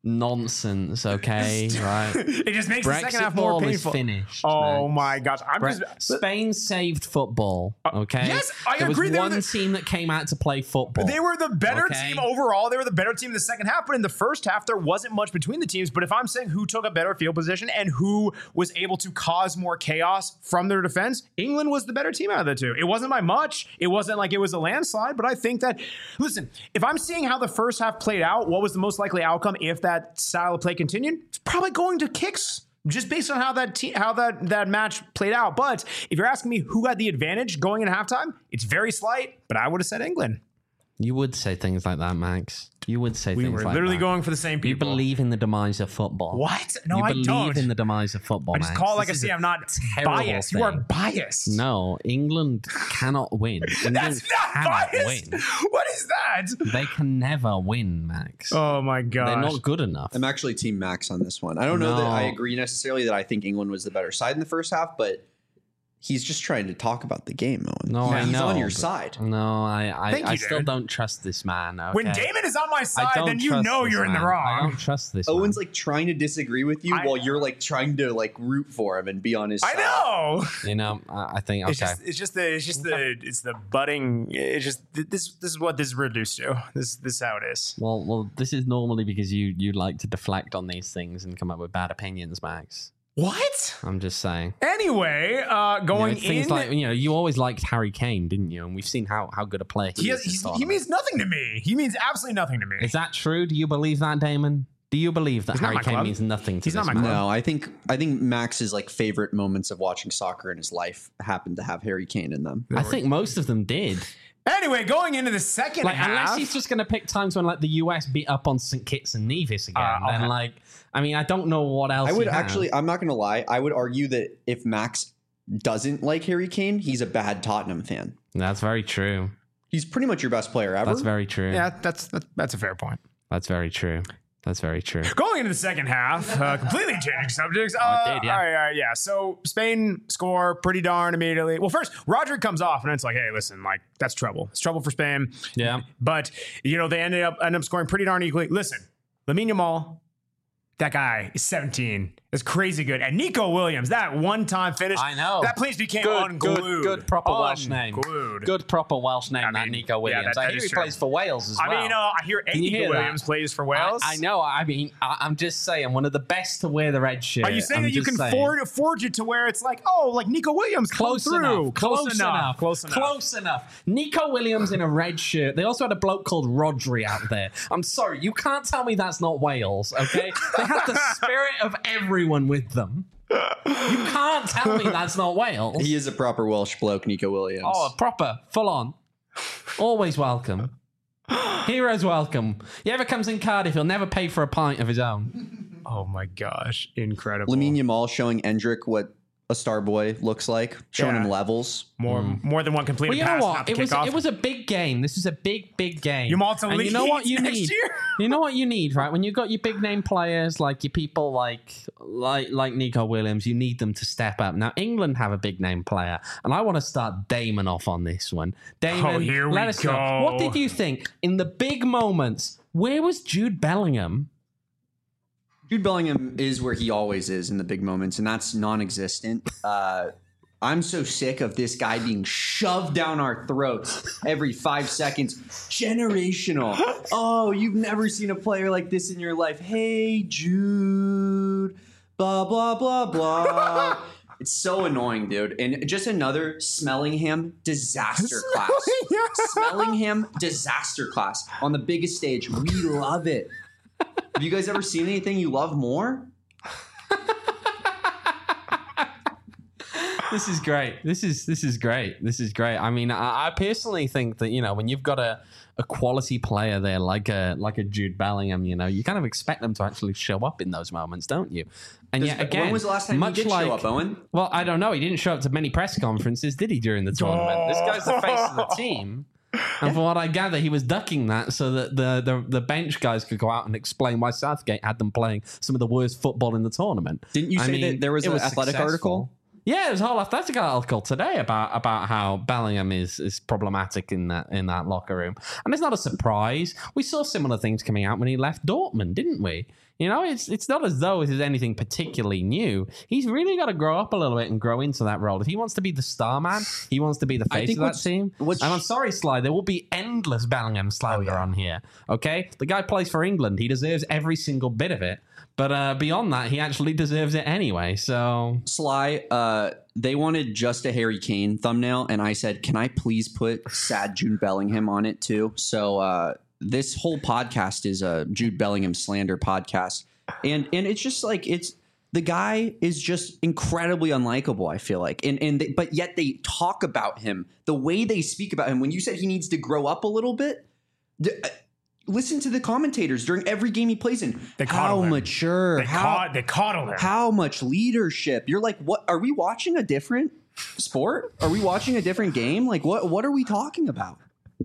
nonsense, okay? Right. It just makes Brexit the second half more ball painful. is finished. Oh Max. my gosh. I'm Bre- just Spain saved football, okay? yes, I there agree. was They were one the- team that came out to play football. They were the better Okay. team overall. They were the better team in the second half, but in the first half, there wasn't much between the teams. But if I'm saying who took a better field position and who was able to cause more chaos from their defense, England was the better team out of the two. It wasn't by much. It wasn't like it was a landslide, but I think that, listen, if I'm seeing how the first half played out, what was the most likely outcome if that style of play continued? It's probably going to kicks. Just based on how that te- how that, that match played out. But if you're asking me who had the advantage going into halftime, it's very slight, but I would have said England. You would say things like that, Max. You would say We things were like literally that. going for the same You people. believe in the demise of football. What? No, you I believe don't. in the demise of football, I just Max. call it like I This say. is a I'm not terrible biased. You are thing. biased. No, England cannot win. England That's not cannot biased. win. What is that? They can never win, Max. Oh my gosh. They're not good enough. I'm actually Team Max on this one. I don't know that No. I agree necessarily that I think England was the better side in the first half, but he's just trying to talk about the game, Owen. No, I he's know, on your but- side. No, I, I, Thank I you, still dude. don't trust this man. Okay? When Damon is on my I side, don't then you trust know this you're in the man. I wrong. don't trust this Owen's man. like trying to disagree with you I- while you're like trying to like root for him and be on his I side. know. You know, I, I think, okay. It's just, it's just the, it's just the, it's the budding. It's just this, this is what this is reduced to. This, this is how it is. well, well, this is normally because you, you like to deflect on these things and come up with bad opinions, Max. What? I'm just saying. Anyway, uh, You know, going things in. like, you know, you always liked Harry Kane, didn't you? And we've seen how, how good a player he, he, is. has, this he's, he tournament. means nothing to me. He means absolutely nothing to me. Is that true? Do you believe that, Damon? Do you believe that He's not Harry my Kane club. means nothing to He's this not my man? club. No, I think I think Max's like favorite moments of watching soccer in his life happened to have Harry Kane in them. I think most of them did. Anyway, going into the second Like, half. unless he's just going to pick times when, like, the U S beat up on Saint Kitts and Nevis again, Uh, I'll then, have- like, I mean, I don't know what else. I would he has. actually, I'm not going to lie, I would argue that if Max doesn't like Harry Kane, he's a bad Tottenham fan. That's very true. He's pretty much your best player ever. That's very true. yeah, that's, that's that's a fair point. That's very true. That's very true. Going into the second half, uh, completely changing subjects. Uh, Oh, it did, yeah. All right, all right, yeah. So Spain score pretty darn immediately. Well, first, Roderick comes off, and it's like, hey, listen, like, that's trouble. It's trouble for Spain. Yeah. But, you know, they ended up end up scoring pretty darn equally. Listen, Lamine Yamal, that guy is seventeen. It's crazy good. And Nico Williams, that one-time finish. I know. That place became Good, unglued. good, good proper Welsh name. Unglued. Good proper Welsh name, I that mean, Nico yeah, Williams. that- I that hear is he true. plays for Wales as I well. mean, uh, I hear you Nico hear that? Williams plays for Wales. I, I know. I mean, I, I'm just saying, one of the best to wear the red shirt. Are you saying I'm that you just can saying. forge, forge it to where it's like, oh, like Nico Williams come Close through. enough. Close, enough. Close enough. Close enough. Nico Williams in a red shirt. They also had a bloke called Rodri out there. I'm sorry, you can't tell me that's not Wales, okay? They had the spirit of everyone with them. You can't tell me that's not Wales. He is a proper Welsh bloke, Nico Williams. Oh, proper, full on. Always welcome. Heroes welcome. He ever comes in Cardiff, he'll never pay for a pint of his own. Oh my gosh, incredible. Lamine Yamal showing Endrick what a star boy looks like, showing Yeah. him levels. more more than one completed Well, you know pass. what? Not to It kick was off. it was a big game. This is a big, big game. Yamal to and you know what Leeds you next need? year? You know what you need, right? When you've got your big name players like your people like like like Nico Williams, you need them to step up. Now England have a big name player, and I want to start Damon off on this one. Damon, Oh, here we let us know. go. What did you think in the big moments? Where was Jude Bellingham? Jude Bellingham is where he always is in the big moments, and that's non-existent. Uh, I'm so sick of this guy being shoved down our throats every five seconds. Generational. Oh, you've never seen a player like this in your life. Hey, Jude. Blah, blah, blah, blah. It's so annoying, dude. And just another Smellingham disaster class. Smellingham disaster class on the biggest stage. We love it. Have you guys ever seen anything you love more? This is great. This is this is great. This is great. I mean, I, I personally think that, you know, when you've got a, a quality player there like a like a Jude Bellingham, you know, you kind of expect them to actually show up in those moments, don't you? And Does- yet again, when was the last time he much did like, show up, Owen? Well, I don't know. He didn't show up to many press conferences, did he, during the tournament? This guy's the face of the team. And from what I gather, he was ducking that so that the, the the bench guys could go out and explain why Southgate had them playing some of the worst football in the tournament. Didn't you I say mean, that there was it an athletic successful. article? Yeah, there's a whole athletic article today about about how Bellingham is is problematic in that in that locker room, and it's not a surprise. We saw similar things coming out when he left Dortmund, didn't we? You know, it's it's not as though it is anything particularly new. He's really got to grow up a little bit and grow into that role. If he wants to be the star man, he wants to be the face of that team. And I'm sorry, Sly, there will be endless Bellingham slander oh, yeah. on here. Okay? The guy plays for England. He deserves every single bit of it. But uh, beyond that, he actually deserves it anyway. So Sly, uh, they wanted just a Harry Kane thumbnail, and I said, can I please put sad Jude Bellingham on it too? So uh, this whole podcast is a Jude Bellingham slander podcast. And and it's just like, it's the guy is just incredibly unlikable, I feel like. And and they, but yet they talk about him, the way they speak about him. When you said he needs to grow up a little bit, the, listen to the commentators during every game he plays in. They how him. mature. They, how, ca- they coddle him. How much leadership. You're like, what? Are we watching a different sport? Are we watching a different game? Like, what, what are we talking about?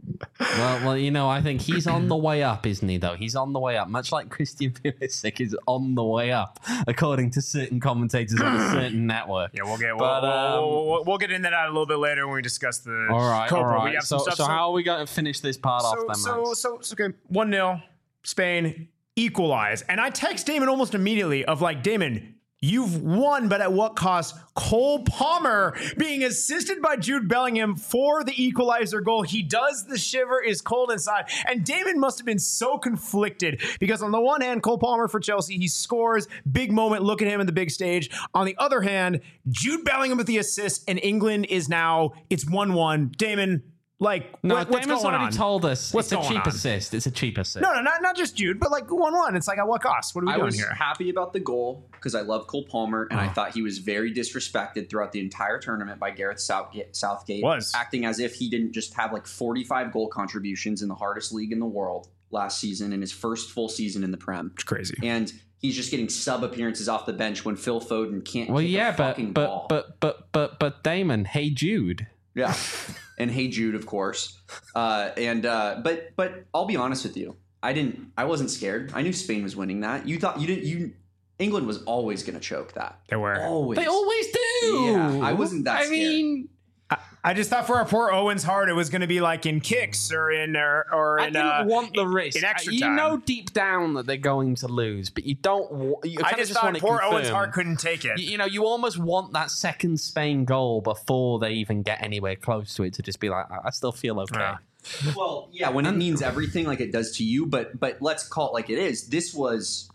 Well, well, you know, I think he's on the way up, isn't he, though? He's on the way up, much like Christian Pulisic is on the way up, according to certain commentators on a certain network. Yeah, we'll get but, we'll, um, we'll, we'll, we'll get into that a little bit later when we discuss the all right, Copa. all right. We have so, some stuff, so so how are we going to finish this part so, off, then, so, Max? so, so, okay, one nil, Spain, equalize. And I text Damon almost immediately of like, Damon, you've won, but at what cost? Cole Palmer being assisted by Jude Bellingham for the equalizer goal. He does the shiver, is cold inside. And Damon must have been so conflicted because on the one hand, Cole Palmer for Chelsea, he scores, big moment, look at him in the big stage. On the other hand, Jude Bellingham with the assist, and England is now, it's one one. Damon, like, no, what, what's Damon's going already on? told us What's it's a cheap on? assist. It's a cheap assist. No, no, not, not just Jude, but like one one. It's like, at what cost? What are we I doing was here? happy about the goal because I love Cole Palmer, and Oh. I thought he was very disrespected throughout the entire tournament by Gareth Southgate, Southgate Was. acting as if he didn't just have like forty-five goal contributions in the hardest league in the world last season in his first full season in the Prem. It's crazy. And he's just getting sub appearances off the bench when Phil Foden can't Well, kick yeah, a but fucking but, ball. but but but but Damon, hey Jude. Yeah. And Hey Jude, of course. Uh, and uh, but but I'll be honest with you. I didn't I wasn't scared. I knew Spain was winning that. You thought you didn't you England was always gonna choke that. They were. Always. They always do. Yeah, I wasn't that I scared. mean, I, I just thought for our poor Owen's heart, it was going to be like in kicks or in or, or I in. didn't uh, want the in- risk. in extra you time. know deep down that they're going to lose, but you don't. wa- You I kinda just thought want it poor Owen's confirmed. heart couldn't take it. You, you know, you almost want that second Spain goal before they even get anywhere close to it to just be like, I I still feel okay. Yeah. Well, yeah, when it means everything like it does to you, but but let's call it like it is. This was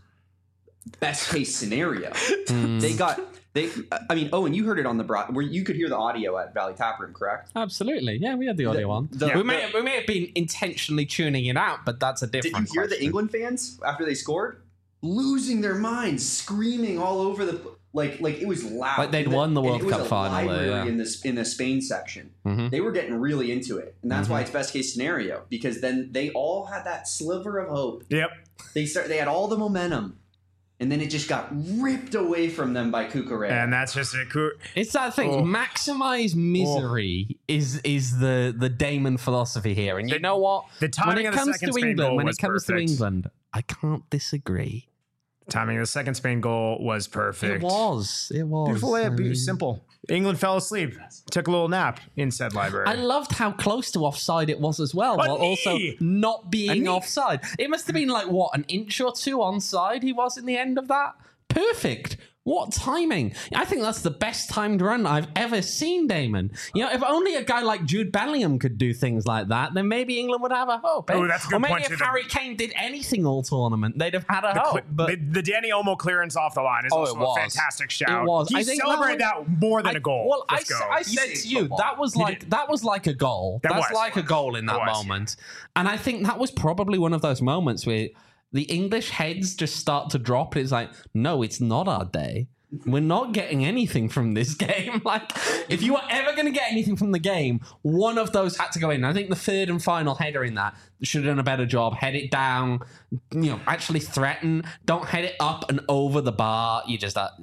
best case scenario. Mm. They got they. I mean, Owen, you heard it on the broad where you could hear the audio at Valley Tap Room, correct? Absolutely, yeah, we had the audio on. the- we may the- have, we may have been intentionally tuning it out, but that's a Did different. you hear the question. England fans after they scored losing their minds, screaming all over the like like it was loud. Like they'd And won the and World it was Cup a final there, library yeah. in the in the Spain section. Mhm. They were getting really into it, and that's Mhm. why it's best case scenario because then they all had that sliver of hope. Yep. They start. They had all the momentum, and then it just got ripped away from them by Cucurella. And that's just a cool. It's that thing. Oh. Maximize misery is is the the Damon philosophy here, and you The- know what? the when timing it of the comes second to Spain England, goal when was it comes perfect. to England, I can't disagree. Timing of the second Spain goal was perfect. It was. It was. Beautiful way I of being mean- simple. England fell asleep, took a little nap in said library. I loved how close to offside it was as well, A while knee! also not A being knee! offside. It must have been like, what, an inch or two onside he was in the end of that? Perfect. What timing? I think that's the best timed run I've ever seen, Damon. You know, if only a guy like Jude Bellingham could do things like that, then maybe England would have a hope. eh? Oh, that's a good or maybe point, if too. Harry Kane did anything all tournament, they'd have had a the, hope. cl- But the, the Danny Olmo clearance off the line is Oh, also it was. a fantastic shout. It was. He I think celebrated that that, more than I- a goal. Well, I, Let's s- go. I He said saved to you football. that was He like did. that was like a goal. That That's was. like a goal in that It was. moment, and I think that was probably one of those moments where the English heads just start to drop. It's like, no, it's not our day. We're not getting anything from this game. Like, if you were ever going to get anything from the game, one of those had to go in. I think the third and final header in that should have done a better job. Head it down, you know, actually threaten. Don't head it up and over the bar. You just, uh,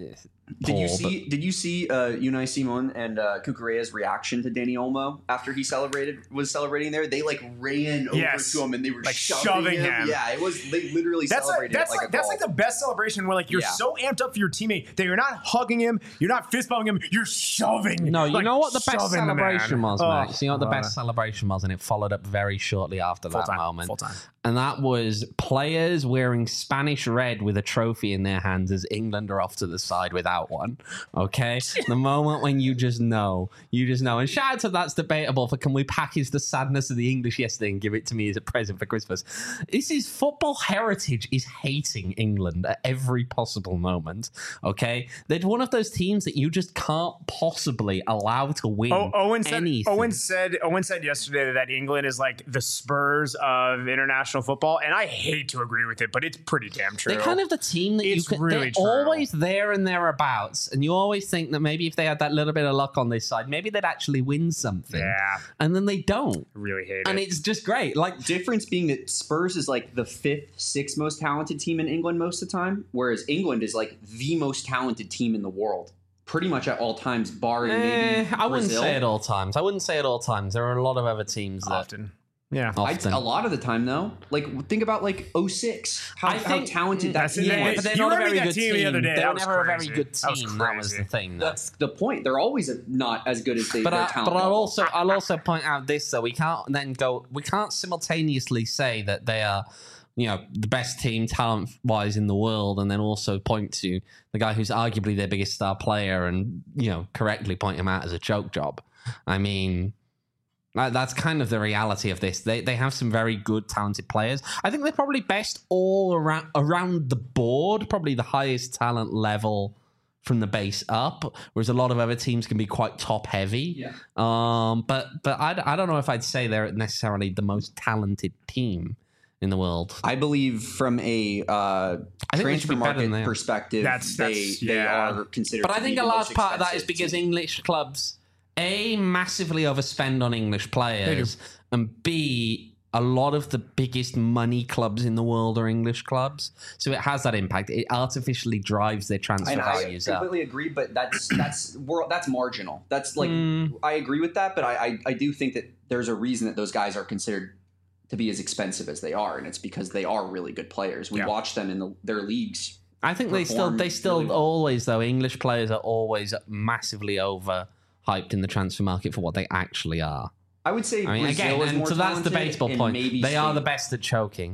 Did you poor, see? Did you see uh, Unai Simon and uh, Cucurella's reaction to Danny Olmo after he celebrated was celebrating there? They like ran over Yes. to him and they were Like shoving, shoving him. him. Yeah, it was. They literally That's like, celebrated that's it like, like, a that's goal. like the best celebration where like you're Yeah. so amped up for your teammate that you're not hugging him, you're not fist bumping him, you're shoving. No, you like, know what the best shoving the man. celebration was, Oh, Max? You know what the I love best celebration was, and it followed up very shortly after Full that time, moment. full time. And that was players wearing Spanish red with a trophy in their hands as England are off to the side without one. Okay? The moment when you just know. You just know. And shout out to That's Debatable for can we package the sadness of the English yesterday and give it to me as a present for Christmas. This is football heritage is hating England at every possible moment. Okay? They're one of those teams that you just can't possibly allow to win Oh, Owen said. anything. Owen said. Owen said yesterday that England is like the Spurs of international football, and I hate to agree with it, but it's pretty damn true. They're kind of the team that It's you can. really They're true. always there and thereabouts, and you always think that maybe if they had that little bit of luck on this side, maybe they'd actually win something. Yeah, And then they don't, really hate and it. it's just great. Like Difference being that Spurs is like the fifth, sixth most talented team in England most of the time, whereas England is like the most talented team in the world, pretty much at all times, barring eh, maybe I wouldn't Brazil. say at all times. I wouldn't say at all times. There are a lot of other teams that often. Yeah. I'd, often. a lot of the time, though, like think about like oh six, how, I how think- talented that That's team it. Yeah, was. but they're You not a remember very that good team team. the other day? They That were was never a crazy. very good That was team. That was crazy. the thing. though. That's the point. They're always not as good as they. But, their I, talent but I'll level. also I'll also point out this though. We can't then go. We can't simultaneously say that they are, you know, the best team talent wise in the world, and then also point to the guy who's arguably their biggest star player, and you know, correctly point him out as a choke job. I mean. That- That's kind of the reality of this. They they have some very good, talented players. I think they're probably best all around around the board. Probably the highest talent level from the base up, whereas a lot of other teams can be quite top heavy. Yeah. Um, but but I, I don't know if I'd say they're necessarily the most talented team in the world. I believe from a uh, I think they should transfer be better than market they are. perspective, That's- they that's- they yeah. are considered. But I to be think a the large most part of that is expensive because team. English clubs, A, massively overspend on English players, and B, a lot of the biggest money clubs in the world are English clubs. So it has that impact. It artificially drives their transfer And I values up. completely agree, but that's that's we're, that's marginal. That's like Mm. I agree with that, but I, I I do think that there's a reason that those guys are considered to be as expensive as they are, and it's because they are really good players. We Yeah. watch them in the, their leagues. I think they still, perform they still really well. always, though, English players are always massively overhyped in the transfer market for what they actually are. I would say I mean, Brazil again, is and more so that's talented, debatable and point. maybe They are Spain. the best at choking.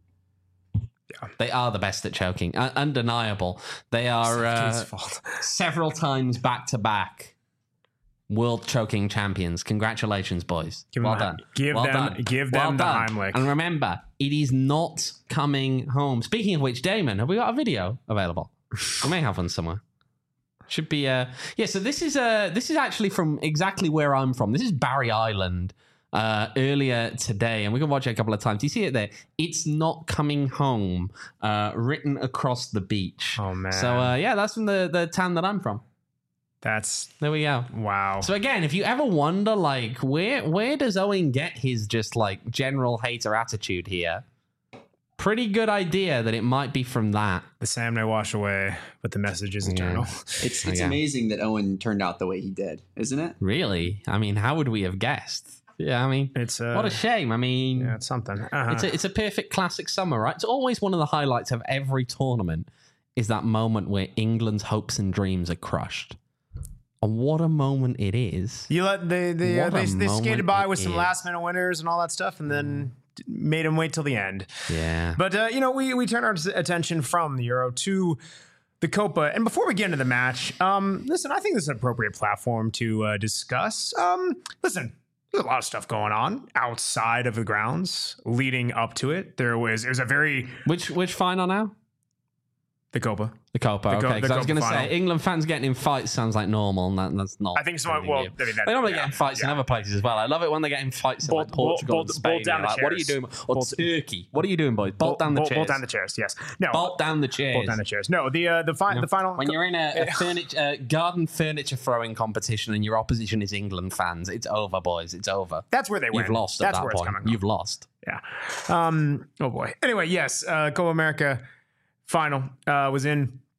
Yeah. They are the best at choking. Uh, undeniable. They are Southgate's uh, fault. several times back to back world choking champions. Congratulations, boys. Give well them, done. Give well them, done. give well them the done. Heimlich. And remember, it is not coming home. Speaking of which, Damon, have we got a video available? We may have one somewhere. Should be uh yeah. So this is uh this is actually from exactly where I'm from. This is Barry Island. Uh, earlier today, and we can watch it a couple of times. You see it there? It's not coming home, uh, written across the beach. Oh, man. So uh, yeah, that's from the the town that I'm from. That's There we go. wow. So again, if you ever wonder, like, where where does Owen get his just like general hater attitude here? Pretty good idea that it might be from that. The Sam may wash away, but the message is eternal. It's it's Okay. amazing that Owen turned out the way he did, isn't it? Really? I mean, how would we have guessed? Yeah, I mean, It's uh, what a shame. I mean, yeah, it's something. Uh-huh. It's a, it's a perfect classic summer, right? It's always one of the highlights of every tournament is that moment where England's hopes and dreams are crushed. And what a moment it is. you let they they uh, What they, a they skated moment by it with some is. last minute winners and all that stuff, and then made them wait till the end. Yeah. But uh, you know, we we turn our attention from the Euro to the Copa, and before we get into the match, um, listen, I think this is an appropriate platform to uh, discuss. Um, listen. There's a lot of stuff going on outside of the grounds leading up to it. There was it was a very Which which final now? the Copa. The Copa. The Co- okay, because the I was Copa going to final. say England fans getting in fights sounds like normal, and that, that's not. I think so. anything Well, new. I mean, that, They normally yeah, get in fights in yeah. other places as well. I love it when they get in fights Bolt- in like Portugal bolt- and Spain. bolt down You're the like, what are you chairs. doing? Or Bolt- Turkey. What are you doing, boys? Bolt, down the bolt, chairs. Bolt down the chairs. Yes. No. Bolt down the chairs. Bolt down the chairs. No. The uh, the, fi- You know, the final. when you're in a, a furniture, uh, garden furniture throwing competition and your opposition is England fans, it's over, boys. It's over. that's where they win. You've lost at That's that where it's point. coming from. You've lost. Yeah. Um. Oh boy. Anyway, yes. Uh, Copa America final uh, was in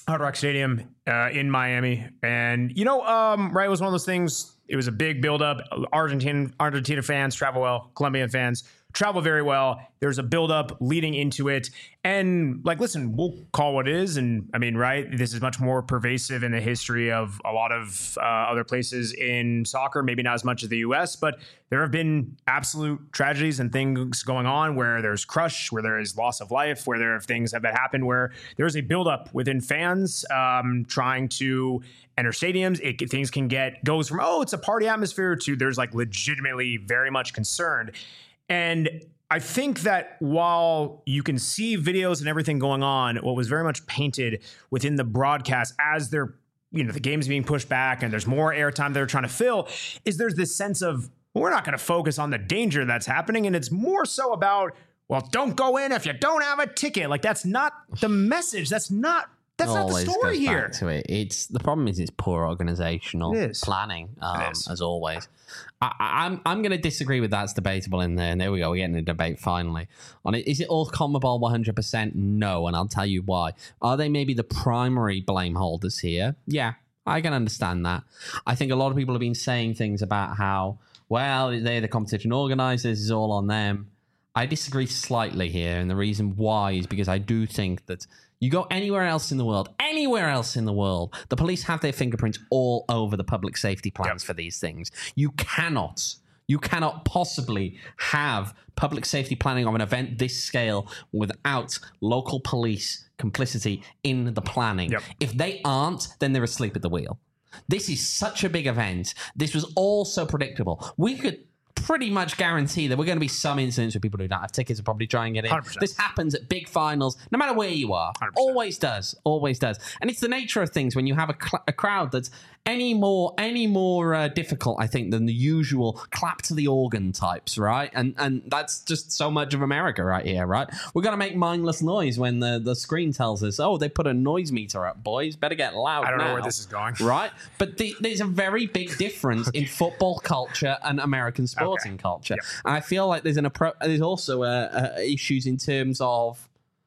Hard Rock Stadium uh, in Miami. And, you know, um, right, it was one of those things. It was a big buildup. Argentine, Argentina fans travel well. Colombian fans travel very well. There's a buildup leading into it. And, like, listen, we'll call what it is. And, I mean, right, this is much more pervasive in the history of a lot of uh, other places in soccer, maybe not as much as the U S, but there have been absolute tragedies and things going on where there's crush, where there is loss of life, where there are things that have happened where there's a buildup within fans um, trying to enter stadiums. It, things can get, goes from, oh, it's a party atmosphere to there's like legitimately very much concerned. And I think that while you can see videos and everything going on, what was very much painted within the broadcast as they're, you know, the game's being pushed back and there's more airtime they're trying to fill, is there's this sense of, well, we're not going to focus on the danger that's happening. And it's more so about, well, don't go in if you don't have a ticket. Like, that's not the message. That's not That's not the story goes here. Back to it. It's the problem is it's poor organizational It is. planning, um, It is. as always. I, I- I'm I'm going to disagree with that's debatable in there. And there we go. We're getting a debate finally on it. Is it all CONMEBOL one hundred percent? No, and I'll tell you why. Are they maybe the primary blame holders here? Yeah, I can understand that. I think a lot of people have been saying things about how, well, they're the competition organizers, it's all on them. I disagree slightly here, and the reason why is because I do think that you go anywhere else in the world, anywhere else in the world, the police have their fingerprints all over the public safety plans Yep. for these things. You cannot, you cannot possibly have public safety planning of an event this scale without local police complicity in the planning. Yep. If they aren't, then they're asleep at the wheel. This is such a big event. This was all so predictable. We could pretty much guarantee that we're going to be some incidents where people who don't have tickets will probably try and get in. one hundred percent. This happens at big finals, no matter where you are. one hundred percent. Always does. Always does. And it's the nature of things when you have a, cl- a crowd that's any more any more uh, difficult, I think, than the usual clap to the organ types, right? And and that's just so much of America right here, right? We're going to make mindless noise when the, the screen tells us, oh, they put a noise meter up, boys. Better get loud I don't now. know where this is going. Right? But the, there's a very big difference in football culture and American sporting Okay. culture. Yep. And I feel like there's an appro- there's also uh, uh, issues in terms of,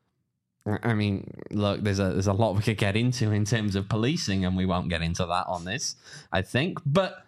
I mean, look, there's a there's a lot we could get into in terms of policing, and we won't get into that on this, I think. But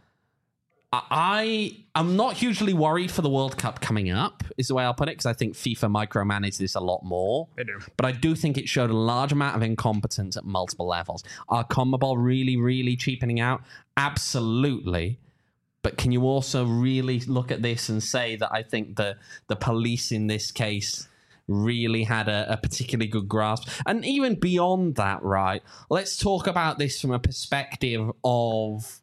I I'm not hugely worried for the World Cup coming up, is the way I'll put it, because I think FIFA micromanaged this a lot more. They do. But I do think it showed a large amount of incompetence at multiple levels. Are CONMEBOL really, really cheapening out? Absolutely. But can you also really look at this and say that I think the the police in this case really had a, a particularly good grasp? And even beyond that, right, let's talk about this from a perspective of,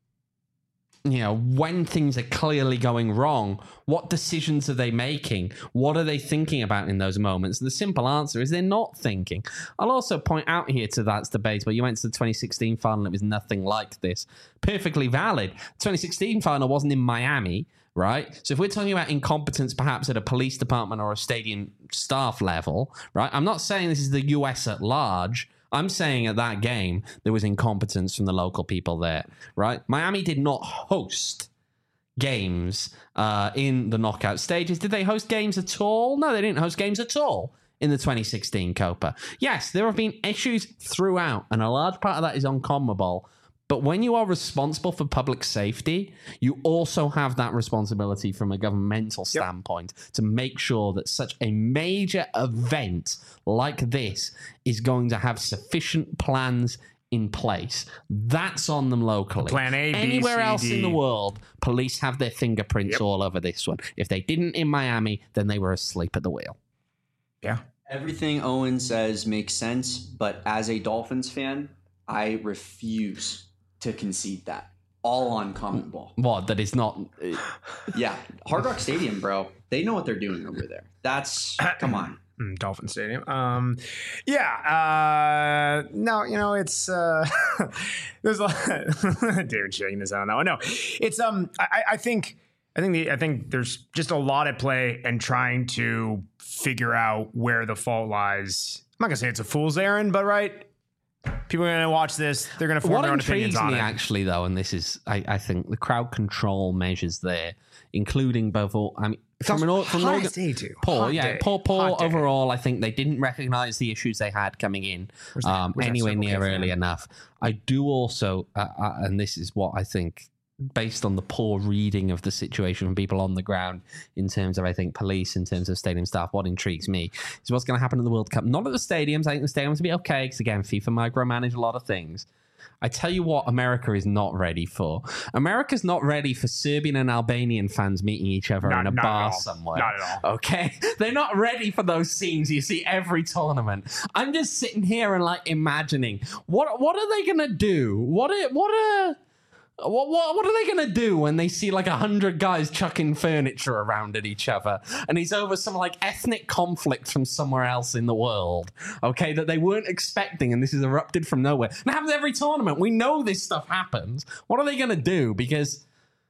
you know, when things are clearly going wrong, what decisions are they making? What are they thinking about in those moments? And the simple answer is they're not thinking. I'll also point out here to that's debate where you went to the twenty sixteen final, it was nothing like this. Perfectly valid. twenty sixteen final wasn't in Miami, right? So if we're talking about incompetence perhaps at a police department or a stadium staff level, right? I'm not saying this is the U S at large. I'm saying at that game, there was incompetence from the local people there, right? Miami did not host games uh, in the knockout stages. Did they host games at all? No, they didn't host games at all in the twenty sixteen Copa. Yes, there have been issues throughout, and a large part of that is on CONMEBOL. But when you are responsible for public safety, you also have that responsibility from a governmental standpoint to make sure that such a major event like this is going to have sufficient plans in place. That's on them locally. Plan A, B, Anywhere C, else D. in the world, police have their fingerprints Yep. all over this one. If they didn't in Miami, then they were asleep at the wheel. Yeah. Everything Owen says makes sense, but as a Dolphins fan, I refuse to concede that. All on CONMEBOL. What? That is not. Yeah. Hard Rock Stadium, bro. They know what they're doing over there. That's, come on. Mm, Dolphin Stadium. Um, yeah. Uh, no, you know, it's uh, there's a lot. David shaking his head on that one. No, it's um. I, I think I think the I think there's just a lot at play and trying to figure out where the fault lies. I'm not gonna say it's a fool's errand, but right. People are going to watch this. They're going to form What their own intrigues opinions on me, it. actually, though, and this is, I, I think, the crowd control measures there, including both all, I mean, from an from an Highest day, too. Paul, Hot yeah, day. Paul, Paul. Hot day. Overall, I think they didn't recognize the issues they had coming in Where's that- um, where's that anywhere Circle K near fan? early enough. I do also, uh, uh, and this is what I think, based on the poor reading of the situation from people on the ground in terms of, I think, police, in terms of stadium staff, what intrigues me is what's going to happen in the World Cup. Not at the stadiums. I think the stadiums will be okay because, again, FIFA micromanage a lot of things. I tell you what America is not ready for. America's not ready for Serbian and Albanian fans meeting each other Not- in a not at bar all. somewhere. Not at all. Okay? They're not ready for those scenes you see every tournament. I'm just sitting here and like imagining what what are they gonna do? What are, what are What, what what are they going to do when they see like a hundred guys chucking furniture around at each other and it's over some like ethnic conflict from somewhere else in the world, okay, that they weren't expecting and this is erupted from nowhere. And it happens every tournament. We know this stuff happens. What are they going to do? Because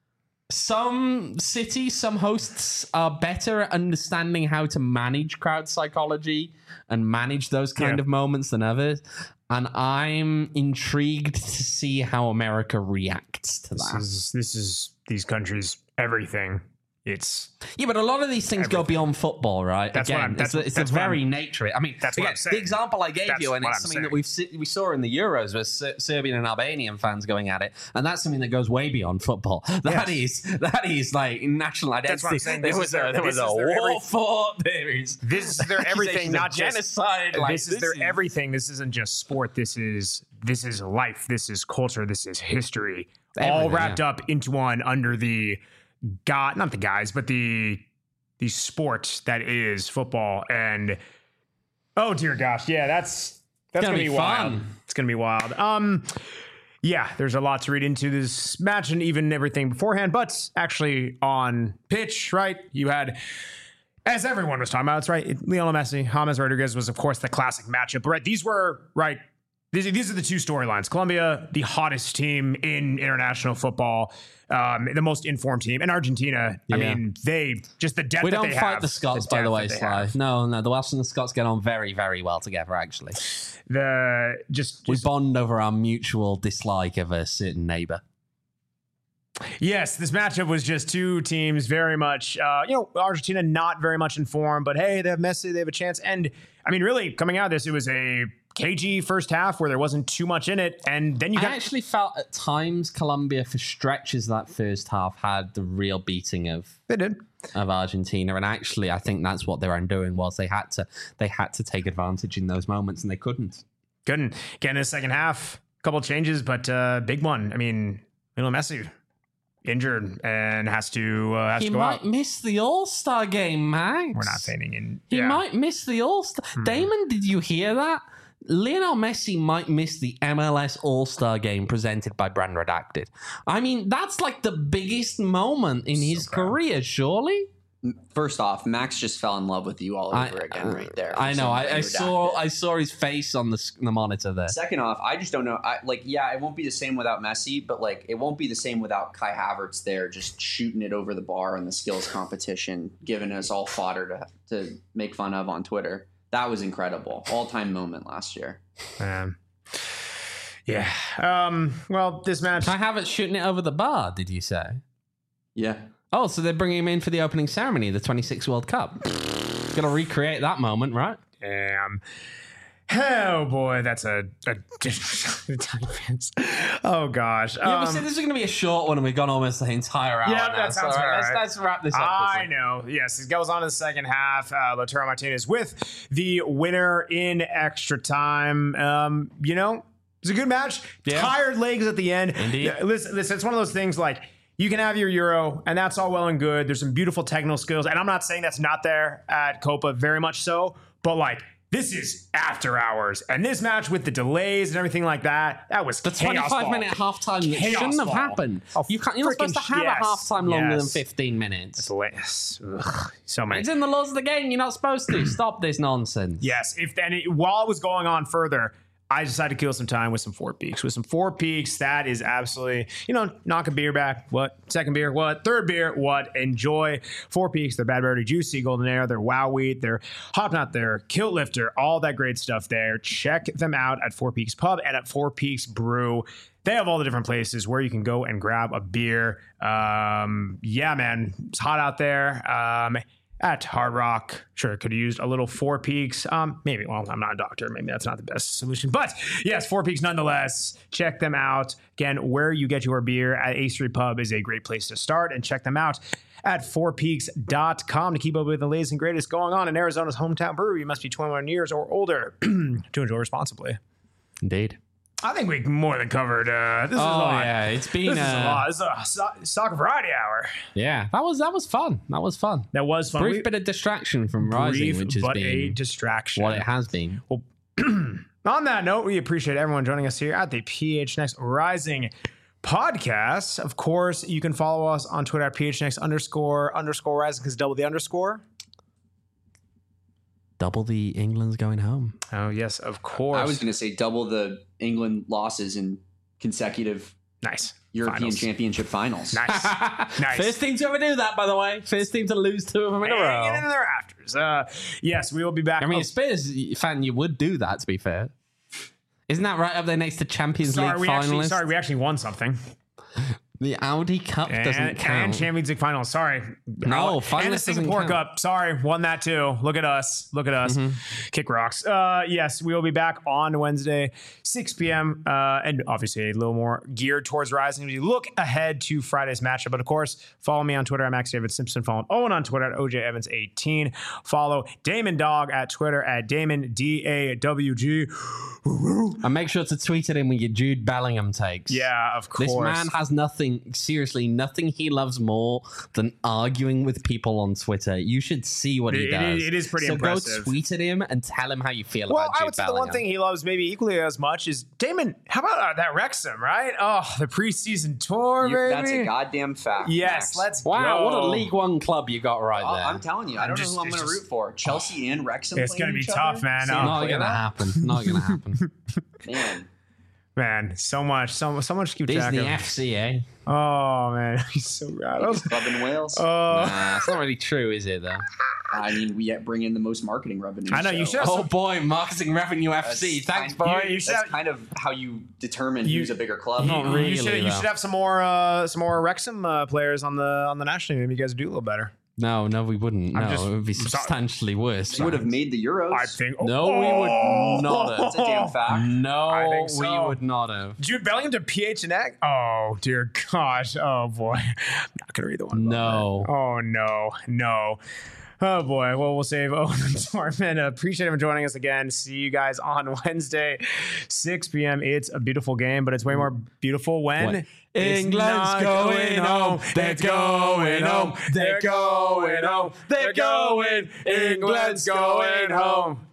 some cities, some hosts are better at understanding how to manage crowd psychology and manage those kind Yeah. of moments than others. And I'm intrigued to see how America reacts to This that. is this is these countries everything. It's Yeah, but a lot of these things go Everything. beyond football, right? That's what Again, I'm- that's- it's, the- it's that's the what very I'm- nature of it. I mean, that's what again, I'm saying. the example I gave That's you, and what it's I'm something saying. that we've se- we saw in the Euros with Ser- Serbian and Albanian fans going at it, and that's something that goes way beyond football. That is that is like national identity. That's what I'm saying. There This was is their- a there was this a is their war every- fought. There is this is their everything, accusations not of just genocide. Like, this is their everything. This isn't just sport. This is this is life. This is culture. This is history. all Everything, wrapped yeah. up into one under the god, not the guys, but the the sport that is football. And oh dear gosh, yeah, that's that's Gonna gonna, be be wild. fun. It's gonna be wild. Um, yeah, there's a lot to read into this match and even everything beforehand. But actually, on pitch, right, you had. As everyone was talking about, it's right. Lionel Messi, James Rodriguez was, of course, the classic matchup. Right, these were right. These, these are the two storylines. Colombia, the hottest team in international football, um, the most informed team, and Argentina. I Yeah. mean, they just the depth. We that don't they fight have, the Scots, by depth the way, that they Sly. have. No, no, the Welsh and the Scots get on very, very well together, actually. The just, We just bond over our mutual dislike of a certain neighbor. yes, this matchup was just two teams very much, uh, you know, Argentina not very much informed, but hey, they have Messi, they have a chance. And I mean, really, coming out of this, it was a cagey first half where there wasn't too much in it, and then you I got actually felt at times Colombia, for stretches that first half, had the real beating of they did. of Argentina, and actually, I think that's what they were undoing was they had to they had to take advantage in those moments, and they couldn't. Couldn't get in the second half. Couple changes, but uh, big one. I mean, Lionel Messi injured and has to uh, has He to go might out. miss the All Star game, Max. We're not feigning in. He yeah. might miss the All Star. Damon, did you hear that? Lionel Messi might miss the M L S All Star game presented by Brand Redacted. I mean, that's like the biggest moment in his proud. career, surely. First off, Max just fell in love with you all over I, again right there. I know. I, I Redacted. saw. I saw his face on the, s- the monitor there. Second off, I just don't know. I, like, yeah, it won't be the same without Messi, but like, it won't be the same without Kai Havertz there, just shooting it over the bar in the skills competition, giving us all fodder to to make fun of on Twitter. That was incredible, all time moment last year. Um, yeah. Um, well, this match. I have it shooting it over the bar. Did you say? Yeah, Oh, so they're bringing him in for the opening ceremony, the twenty-six World Cup. Got to recreate that moment, right? Damn. Oh boy, that's a, a defense. Oh gosh. Yeah, Um, we said this is going to be a short one, and we've gone almost the entire hour. Yeah, now, that sounds so, about let's, right. let's wrap this up. I quickly. know. Yes, it goes on to the second half. Uh, Lautaro Martinez with the winner in extra time. Um, you know, it was a good match. Yeah. Tired legs at the end. Indeed. Yeah, Listen, listen, it's one of those things like you can have your Euro, and that's all well and good. There's some beautiful technical skills, and I'm not saying that's not there at Copa, very much so, but like, this is after hours, and this match with the delays and everything like that, that was The chaos twenty-five ball. minute halftime that Chaos shouldn't have ball. happened. Oh, you can't. You're not supposed to freaking have yes, a halftime longer than yes. fifteen minutes. It's less. Ugh, so many. It's in the laws of the game. You're not supposed to stop this nonsense. Yes, if then it, while it was going on further, I decided to kill some time with some Four Peaks. With some Four Peaks, that is absolutely, you know, knock a beer back. What? Second beer? What? Third beer? What? Enjoy Four Peaks. Their Bad Berry Juicy, Golden Ale, their Wow Wheat, their Hop Knot, their Kilt Lifter, all that great stuff there. Check them out at Four Peaks Pub and at Four Peaks Brew. They have all the different places where you can go and grab a beer. Um, yeah, man, it's hot out there. Um, At Hard Rock, sure, could have used a little Four Peaks. Um, maybe, well, I'm not a doctor. Maybe that's not the best solution. But yes, Four Peaks nonetheless. Check them out. Again, where you get your beer at A Street Pub is a great place to start. And check them out at four peaks dot com to keep up with the latest and greatest going on in Arizona's hometown brewery. You must be twenty-one years or older to enjoy responsibly. Indeed. I think we more than covered. Uh, this is Oh, a lot. yeah, it's been, This is a uh, lot. This is a so- soccer variety hour. Yeah, that was that was fun. That was fun. That was fun. Brief We- bit of distraction from Rising, brief, which has but been a distraction. what it has been. Well, on that note, we appreciate everyone joining us here at the P H N X Rising podcast. Of course, you can follow us on Twitter at P H N X underscore underscore Rising because double the underscore. Double the England's going home. Oh, yes, of course. I was going to say double the England losses in consecutive nice. European Finals. Championship finals. Nice. Nice. First team to ever do that, by the way. First team to lose two of them in a Hanging in row. the rafters. Uh, yes, we will be back. I mean, Oh, Spurs fan, you would do that. To be fair, isn't that right up there next to Champions sorry, League we actually, finalists? sorry, we actually won something. The Audi Cup doesn't And, count. and Champions League finals. Sorry. No, and the finalists doesn't Singapore count. Cup. Sorry, won that too. Look at us. Look at us. Mm-hmm. Kick rocks. Uh, yes, we will be back on Wednesday, six p.m. Uh, and obviously a little more geared towards Rising. We look ahead to Friday's matchup. But of course, follow me on Twitter at Max David Simpson. Follow Owen on Twitter at O J Evans eighteen. Follow Damon Dog at Twitter at Damon D A W G. And make sure to tweet at him with your Jude Bellingham takes. Yeah, of course. This man has nothing, seriously, nothing he loves more than arguing with people on Twitter. You should see what he It- it does. is- it is pretty so impressive. go tweet at him and tell him how you feel Well, about I Jude would say Bellingham. the one thing he loves maybe equally as much is Damon. How about uh, that Wrexham, right? Oh, the preseason tour, You- baby. that's a goddamn fact. Yes, Max. let's Wow, go. what a League One club you got right Oh, there. I'm telling you, I don't just- know who I'm it's going to just- root for. Chelsea and Wrexham. It's playing gonna be each tough, other? man. Seeing Oh, them Not play gonna that? happen. Not gonna happen. Man, Man, so much, so so much to keep track Disney of. F C, eh? Oh man, he's so rattled. biggest club in Wales. Oh, Nah, it's not really true, is it? Though. I mean, we bring in the most marketing revenue. I know, you so should have Oh boy, marketing revenue F C. That's Thanks, kind- boy. you- you should That's have- kind of how you determine You- who's a bigger club. Not you, really, you should you though. should have some more uh, some more Wrexham uh, players on the on the national team. Maybe you guys do a little better. No, no, we wouldn't. I'm No, just- it would be I'm sorry. substantially worse. They would have made the Euros. I think. No, we would not have. That's a damn fact. No, I think we so. would not have. Jude Bellingham to P H N X. Oh dear gosh. Oh boy. I'm not gonna read the one. about No. that. Oh no. No. Oh boy. Well, we'll save Owen and Torment. Appreciate him joining us again. See you guys on Wednesday, six p.m. It's a beautiful game, but it's way more beautiful when What? it's England's not going home. They're going home. They're going home. They're going. England's going home.